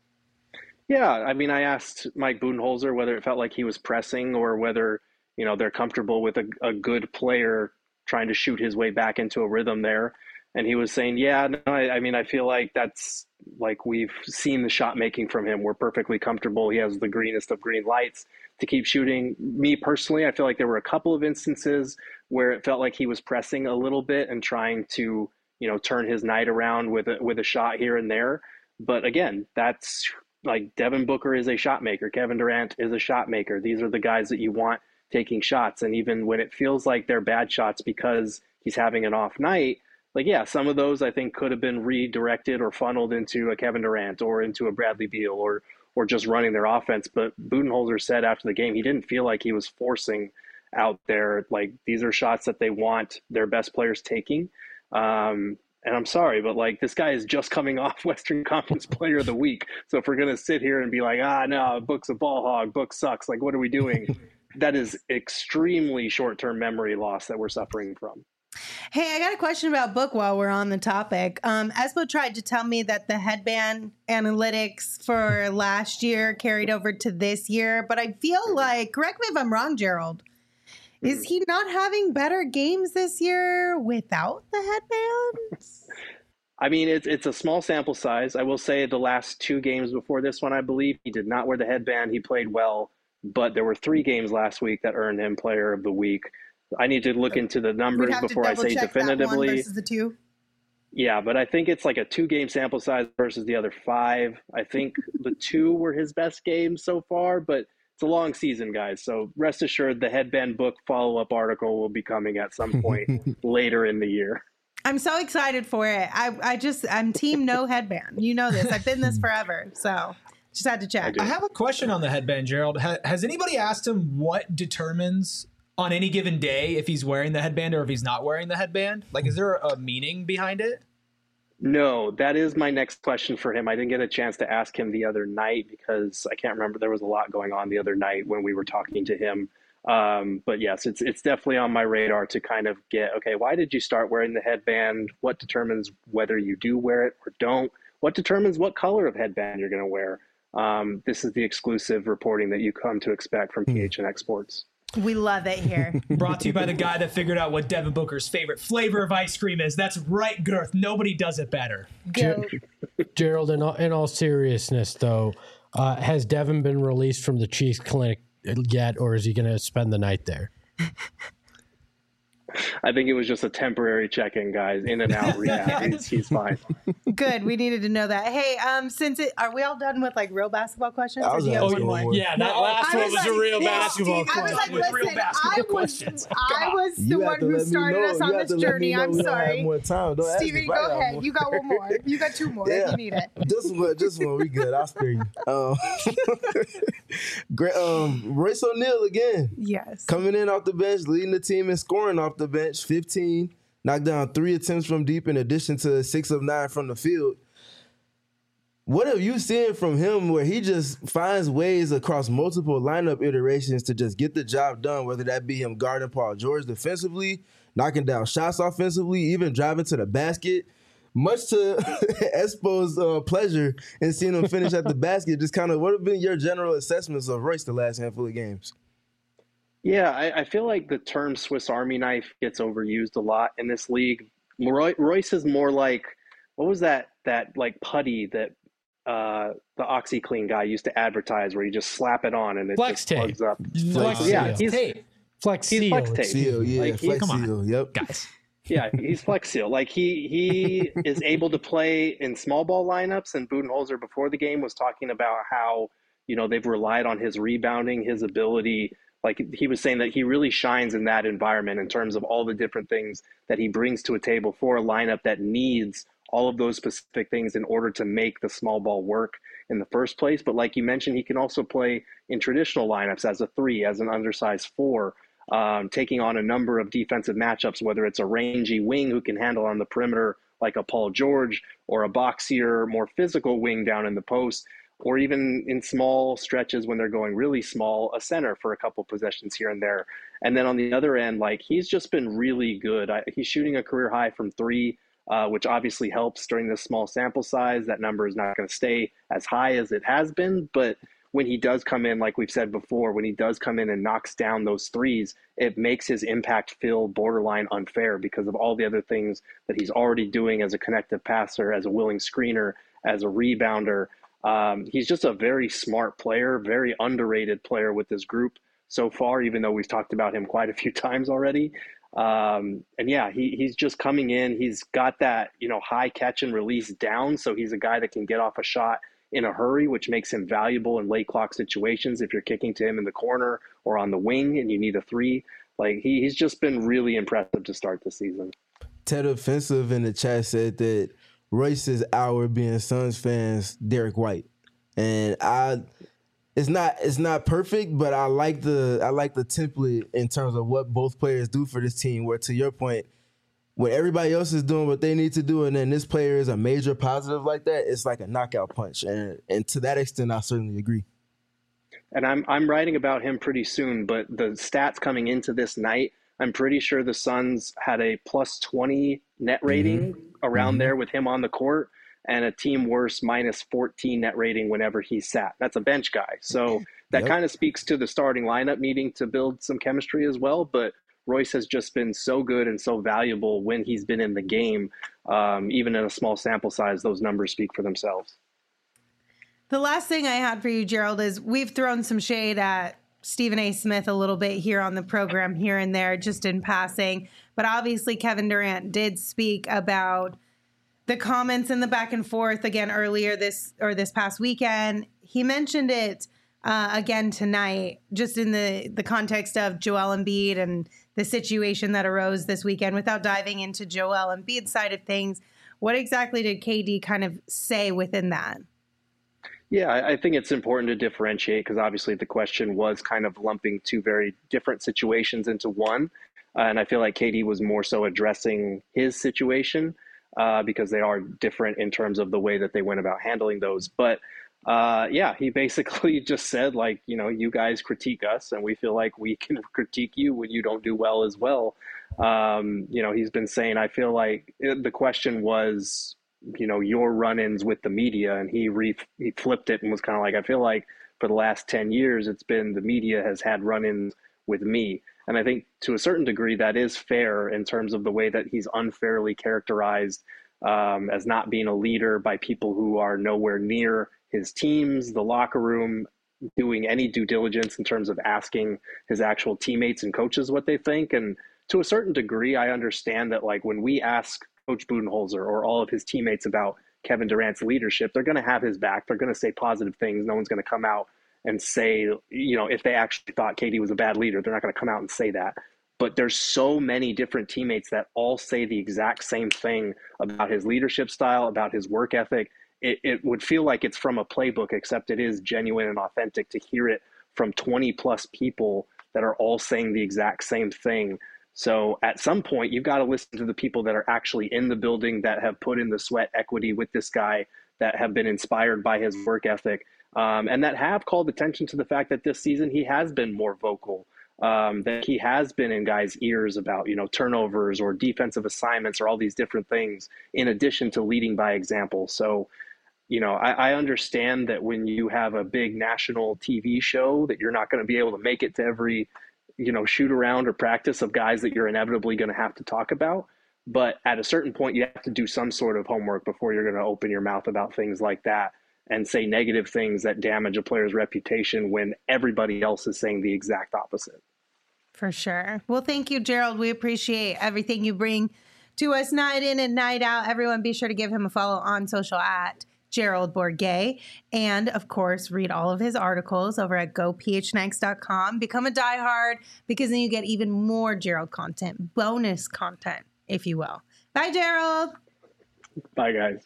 Yeah, I mean, I asked Mike Budenholzer whether it felt like he was pressing or whether, you know, they're comfortable with a, a good player trying to shoot his way back into a rhythm there. And he was saying, yeah, no, I, I mean, I feel like that's like we've seen the shot making from him. We're perfectly comfortable. He has the greenest of green lights to keep shooting. Me personally, I feel like there were a couple of instances where it felt like he was pressing a little bit and trying to, you know, turn his night around with a, with a shot here and there. But again, that's like Devin Booker is a shot maker. Kevin Durant is a shot maker. These are the guys that you want taking shots. And even when it feels like they're bad shots because he's having an off night, like, yeah, some of those I think could have been redirected or funneled into a Kevin Durant or into a Bradley Beal or or just running their offense. But Budenholzer said after the game he didn't feel like he was forcing out there. Like, these are shots that they want their best players taking. Um, and I'm sorry, but like, this guy is just coming off Western Conference Player of the Week. So if we're going to sit here and be like, ah, no, Book's a ball hog, Book sucks, like, what are we doing? That is extremely short-term memory loss that we're suffering from. Hey, I got a question about Book while we're on the topic. Um, Espo tried to tell me that the headband analytics for last year carried over to this year, but I feel like, correct me if I'm wrong, Gerald, is he not having better games this year without the headbands? I mean, it's it's a small sample size. I will say the last two games before this one, I believe, he did not wear the headband. He played well, but there were three games last week that earned him Player of the Week. I need to look into the numbers before I say definitively. That one versus the two. Yeah, but I think it's like a two-game sample size versus the other five. I think the two were his best games so far, but it's a long season, guys. So rest assured, the headband book follow-up article will be coming at some point later in the year. I'm so excited for it. I, I just, I'm team no headband. You know this. I've been this forever. So just had to check. I, I have a question on the headband, Gerald. Ha- has anybody asked him what determines on any given day if he's wearing the headband or if he's not wearing the headband? Like, is there a meaning behind it? No, that is my next question for him. I didn't get a chance to ask him the other night because I can't remember. There was a lot going on the other night when we were talking to him. Um, but yes, it's it's definitely on my radar to kind of get, okay, why did you start wearing the headband? What determines whether you do wear it or don't? What determines what color of headband you're going to wear? Um, this is the exclusive reporting that you come to expect from P H N X Sports. We love it here. Brought to you by the guy that figured out what Devin Booker's favorite flavor of ice cream is. That's right, Girth. Nobody does it better. Go. Gerald, in all, in all seriousness, though, uh, has Devin been released from the Chiefs clinic yet, or is he going to spend the night there? I think it was just a temporary check-in, guys. In and out rehab. he's, he's fine. Good. We needed to know that. Hey, um, since it, are we all done with like real basketball questions? Or do you have one more? Yeah, that last I one was was like, a real yeah, basketball Steve, I was question. like, listen, real basketball I was, questions. I was the You have one to who let me started know. us You on have this to let me journey. know I'm we don't have sorry. more time. Don't ask Stevie, if I go got ahead. more. You got one more. You got two more Yeah. if you need it. Just one, just one. We good. I'll spare you. Um, great. Um, Royce O'Neal again. Yes. Coming in off the bench, leading the team and scoring off the bench. fifteen, knocked down three attempts from deep in addition to six of nine from the field. What have you seen from him where he just finds ways across multiple lineup iterations to just get the job done, whether that be him guarding Paul George defensively, knocking down shots offensively, even driving to the basket? Much to Espo's uh, pleasure in seeing him finish at the basket, just kind of what have been your general assessments of Royce the last handful of games? Yeah, I, I feel like the term Swiss Army knife gets overused a lot in this league. Roy, Royce is more like, what was that, that like putty that uh, the OxyClean guy used to advertise where you just slap it on and it Flex just tape. plugs up. Flex Like, yeah, tape. he's, Tape. Flex he's seal. flex tape. Seal, yeah, Like, he- flex come on. seal, yep. Guys. Yeah, he's Flex Seal. Like he he is able to play in small ball lineups. And Budenholzer before the game was talking about how, you know, they've relied on his rebounding, his ability. Like he was saying that he really shines in that environment in terms of all the different things that he brings to a table for a lineup that needs all of those specific things in order to make the small ball work in the first place. But like you mentioned, he can also play in traditional lineups as a three, as an undersized four, um, taking on a number of defensive matchups, whether it's a rangy wing who can handle on the perimeter like a Paul George, or a boxier, more physical wing down in the post, or even in small stretches when they're going really small, a center for a couple possessions here and there. And then on the other end, like he's just been really good. I, he's shooting a career high from three, uh, which obviously helps during this small sample size. That number is not going to stay as high as it has been, but when he does come in, like we've said before, when he does come in and knocks down those threes, it makes his impact feel borderline unfair because of all the other things that he's already doing as a connective passer, as a willing screener, as a rebounder. Um, he's just a very smart player, very underrated player with this group so far, even though we've talked about him quite a few times already. Um, and yeah, he, he's just coming in. He's got that, you know, high catch and release down. So he's a guy that can get off a shot in a hurry, which makes him valuable in late clock situations. If you're kicking to him in the corner or on the wing and you need a three, like he, he's just been really impressive to start the season. Ted Offensive in the chat said that Royce is our being Suns fans Derek White, and I, it's not it's not perfect, but I like the I like the template in terms of what both players do for this team. Where to your point, when everybody else is doing what they need to do, and then this player is a major positive like that, it's like a knockout punch, and and to that extent, I certainly agree. And I'm I'm writing about him pretty soon, but the stats coming into this night I'm pretty sure the Suns had a plus twenty net rating mm-hmm. around mm-hmm. there with him on the court, and a team worse minus fourteen net rating whenever he sat. That's a bench guy. So that yep. kind of speaks to the starting lineup needing to build some chemistry as well. But Royce has just been so good and so valuable when he's been in the game. Um, even in a small sample size, those numbers speak for themselves. The last thing I had for you, Gerald, is we've thrown some shade at Stephen A. Smith a little bit here on the program, here and there, just in passing. But obviously, Kevin Durant did speak about the comments and the back and forth again earlier this or this past weekend. He mentioned it uh, again tonight, just in the, the context of Joel Embiid and the situation that arose this weekend. Without diving into Joel Embiid's side of things, what exactly did K D kind of say within that? Yeah, I think it's important to differentiate because obviously the question was kind of lumping two very different situations into one. Uh, and I feel like K D was more so addressing his situation uh, because they are different in terms of the way that they went about handling those. But uh, yeah, he basically just said, like, you know, you guys critique us and we feel like we can critique you when you don't do well as well. Um, you know, he's been saying, I feel like it, the question was, you know, your run-ins with the media, and he re he flipped it and was kind of like, I feel like for the last ten years, it's been the media has had run-ins with me. And I think to a certain degree that is fair in terms of the way that he's unfairly characterized um, as not being a leader by people who are nowhere near his teams, the locker room, doing any due diligence in terms of asking his actual teammates and coaches what they think. And to a certain degree, I understand that, like, when we ask Coach Budenholzer or all of his teammates about Kevin Durant's leadership, they're going to have his back. They're going to say positive things. No one's going to come out and say, you know, if they actually thought K D was a bad leader, they're not going to come out and say that. But there's so many different teammates that all say the exact same thing about his leadership style, about his work ethic. It, it would feel like it's from a playbook, except it is genuine and authentic to hear it from twenty plus people that are all saying the exact same thing. So at some point, you've got to listen to the people that are actually in the building, that have put in the sweat equity with this guy, that have been inspired by his work ethic, um, and that have called attention to the fact that this season he has been more vocal, um, that he has been in guys' ears about, you know, turnovers or defensive assignments or all these different things, in addition to leading by example. So, you know, I, I understand that when you have a big national T V show that you're not going to be able to make it to every, you know, shoot around or practice of guys that you're inevitably going to have to talk about. But at a certain point, you have to do some sort of homework before you're going to open your mouth about things like that and say negative things that damage a player's reputation when everybody else is saying the exact opposite. For sure. Well, thank you, Gerald. We appreciate everything you bring to us night in and night out. Everyone, be sure to give him a follow on social at Gerald Bourguet. And of course, read all of his articles over at go p h n x dot com. Become a diehard, because then you get even more Gerald content, bonus content, if you will. Bye, Gerald. Bye, guys.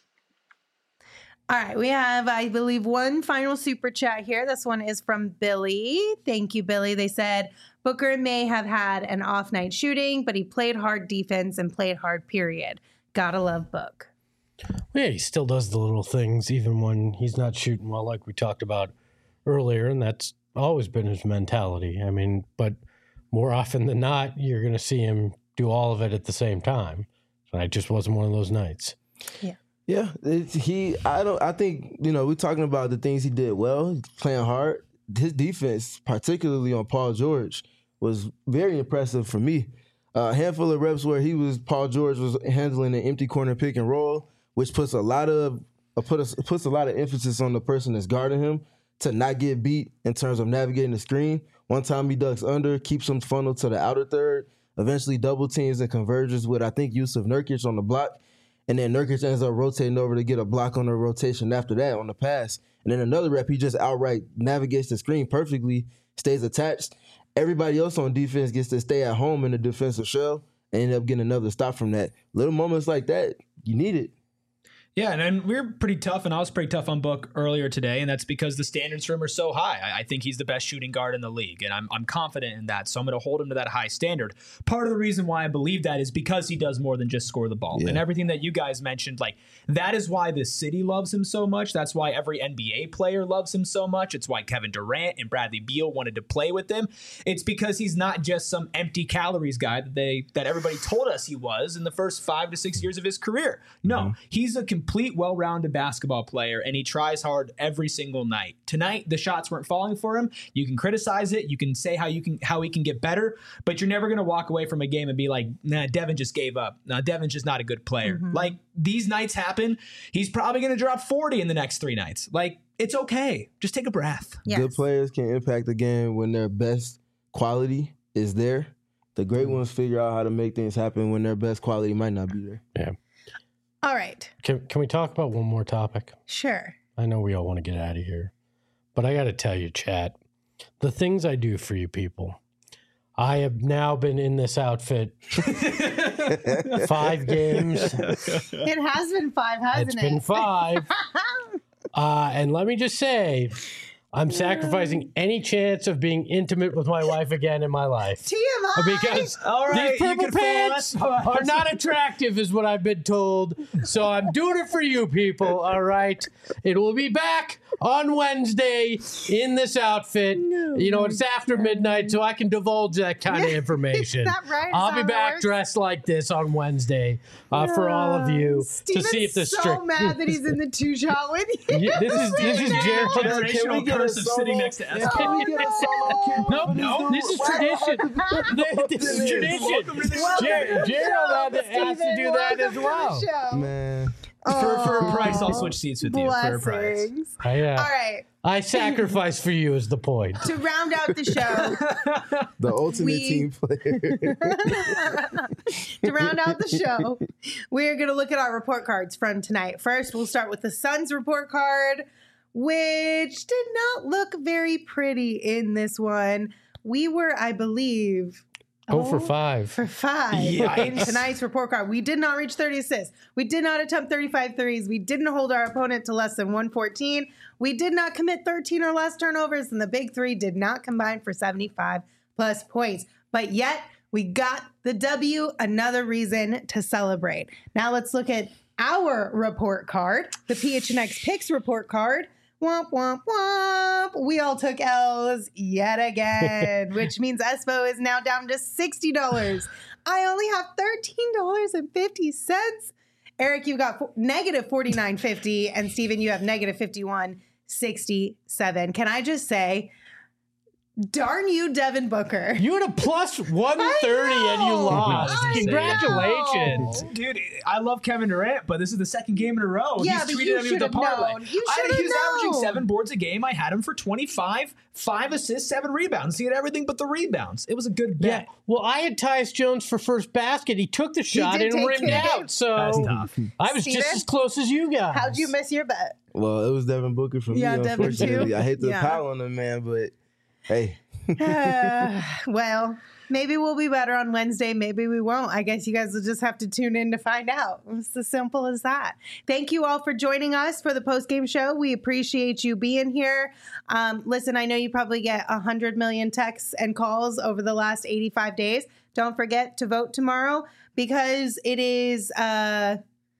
All right, we have, I believe, one final super chat here. This one is from Billy. Thank you, Billy. They said, Booker may have had an off night shooting, but he played hard defense and played hard, period. Gotta love Book. Yeah, he still does the little things, even when he's not shooting well, like we talked about earlier, and that's always been his mentality. I mean, but more often than not, you're going to see him do all of it at the same time. It just wasn't one of those nights. Yeah. Yeah, it's, he. I don't. I think, you know, we're talking about the things he did well, playing hard. His defense, particularly on Paul George, was very impressive for me. Uh, a handful of reps where he was Paul George was handling an empty corner pick and roll, which puts a lot of uh, put a, puts a lot of emphasis on the person that's guarding him to not get beat in terms of navigating the screen. One time he ducks under, keeps him funneled to the outer third, eventually double teams and converges with, I think, Yusuf Nurkic on the block. And then Nurkic ends up rotating over to get a block on the rotation after that on the pass. And then another rep, he just outright navigates the screen perfectly, stays attached. Everybody else on defense gets to stay at home in the defensive shell and end up getting another stop from that. Little moments like that, you need it. Yeah, and, and we're pretty tough, and I was pretty tough on Book earlier today, and that's because the standards for him are so high. I, I think he's the best shooting guard in the league, and I'm I'm confident in that, so I'm going to hold him to that high standard. Part of the reason why I believe that is because he does more than just score the ball. Yeah. And everything that you guys mentioned, like, that is why the city loves him so much. That's why every N B A player loves him so much. It's why Kevin Durant and Bradley Beal wanted to play with him. It's because he's not just some empty calories guy that they that everybody told us he was in the first five to six years of his career. No, mm-hmm. he's a complete, well-rounded basketball player, and he tries hard every single night. Tonight, the shots weren't falling for him. You can criticize it. You can say how you can how he can get better, but you're never going to walk away from a game and be like, nah, Devin just gave up. Nah, Devin's just not a good player. Mm-hmm. Like, these nights happen. He's probably going to drop forty in the next three nights. Like, it's okay. Just take a breath. Yes. Good players can impact the game when their best quality is there. The great ones figure out how to make things happen when their best quality might not be there. Yeah. All right. Can can we talk about one more topic? Sure. I know we all want to get out of here, but I got to tell you, chat, the things I do for you people. I have now been in this outfit five games. It has been five, hasn't it's it? It's been five. uh, and let me just say, I'm sacrificing any chance of being intimate with my wife again in my life. T M I! Because all right, these purple pants are not attractive is what I've been told. So I'm doing it for you people, all right? It will be back on Wednesday in this outfit. No, you know, it's after midnight, so I can divulge that kind of information. Is that right? I'll be back works? dressed like this on Wednesday uh, no. for all of you Steven's to see if the so strict. mad that he's in the two shot with you. Yeah, this is this is Jared. Generational curse of sitting next to us. Oh, no, no, no, this is tradition. This is tradition. Jared, Gerald has to do that as well. Man. For, for a price, I'll switch seats with you. Blessings. For a price. I, uh, All right. I sacrifice for you is the point. To round out the show. The ultimate we, team player. To round out the show, we're going to look at our report cards from tonight. First, we'll start with the Suns report card, which did not look very pretty in this one. We were, I believe... Oh, for five. For five Yikes. In tonight's report card. We did not reach thirty assists. We did not attempt thirty-five threes. We didn't hold our opponent to less than one fourteen. We did not commit thirteen or less turnovers, and the big three did not combine for seventy-five plus points. But yet, we got the W, another reason to celebrate. Now let's look at our report card, the P H N X Picks report card. Womp, womp, womp. We all took L's yet again, which means Espo is now down to sixty dollars. I only have thirteen dollars and fifty cents. Eric, you got fo- negative forty-nine fifty, and Steven, you have negative fifty-one sixty-seven. Can I just say, darn you, Devin Booker. You had a plus one thirty and you lost. I Congratulations. know. Dude, I love Kevin Durant, but this is the second game in a row. Yeah, He's but tweeted you at me with the should have parlay. known. You I, should have he was averaging known. seven boards a game. I had him for twenty-five, five assists, seven rebounds. He had everything but the rebounds. It was a good bet. Yeah. Well, I had Tyus Jones for first basket. He took the shot did and take rimmed it. out. So That's tough. I was Steven? just as close as you guys. How'd you miss your bet? Well, it was Devin Booker for Yeah, me, Devin unfortunately. too. I hate to Yeah. pile on him, man, but hey. uh, well, maybe we'll be better on Wednesday. Maybe we won't. I guess you guys will just have to tune in to find out. It's as simple as that. Thank you all for joining us for the post-game show. We appreciate you being here. Um, listen, I know you probably get one hundred million texts and calls over the last eighty-five days. Don't forget to vote tomorrow because it is... Uh,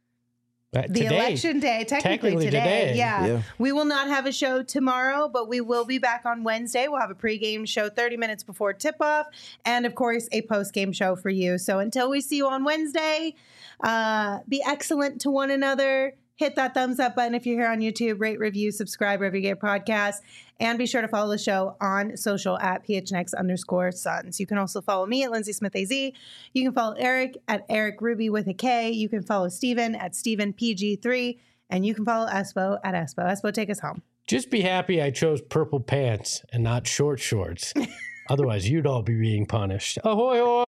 Uh, the today. election day, technically, Technically today. today. Yeah. Yeah. We will not have a show tomorrow, but we will be back on Wednesday. We'll have a pregame show thirty minutes before tip-off and, of course, a postgame show for you. So until we see you on Wednesday, uh, be excellent to one another. Hit that thumbs up button if you're here on YouTube. Rate, review, subscribe wherever you get podcasts. And be sure to follow the show on social at P H N X underscore Suns. You can also follow me at Lindsay Smith A Z. You can follow Eric at Eric Ruby with a K. You can follow Steven at Steven P G three. And you can follow Espo at Espo. Espo, take us home. Just be happy I chose purple pants and not short shorts. Otherwise, you'd all be being punished. Ahoy, ahoy.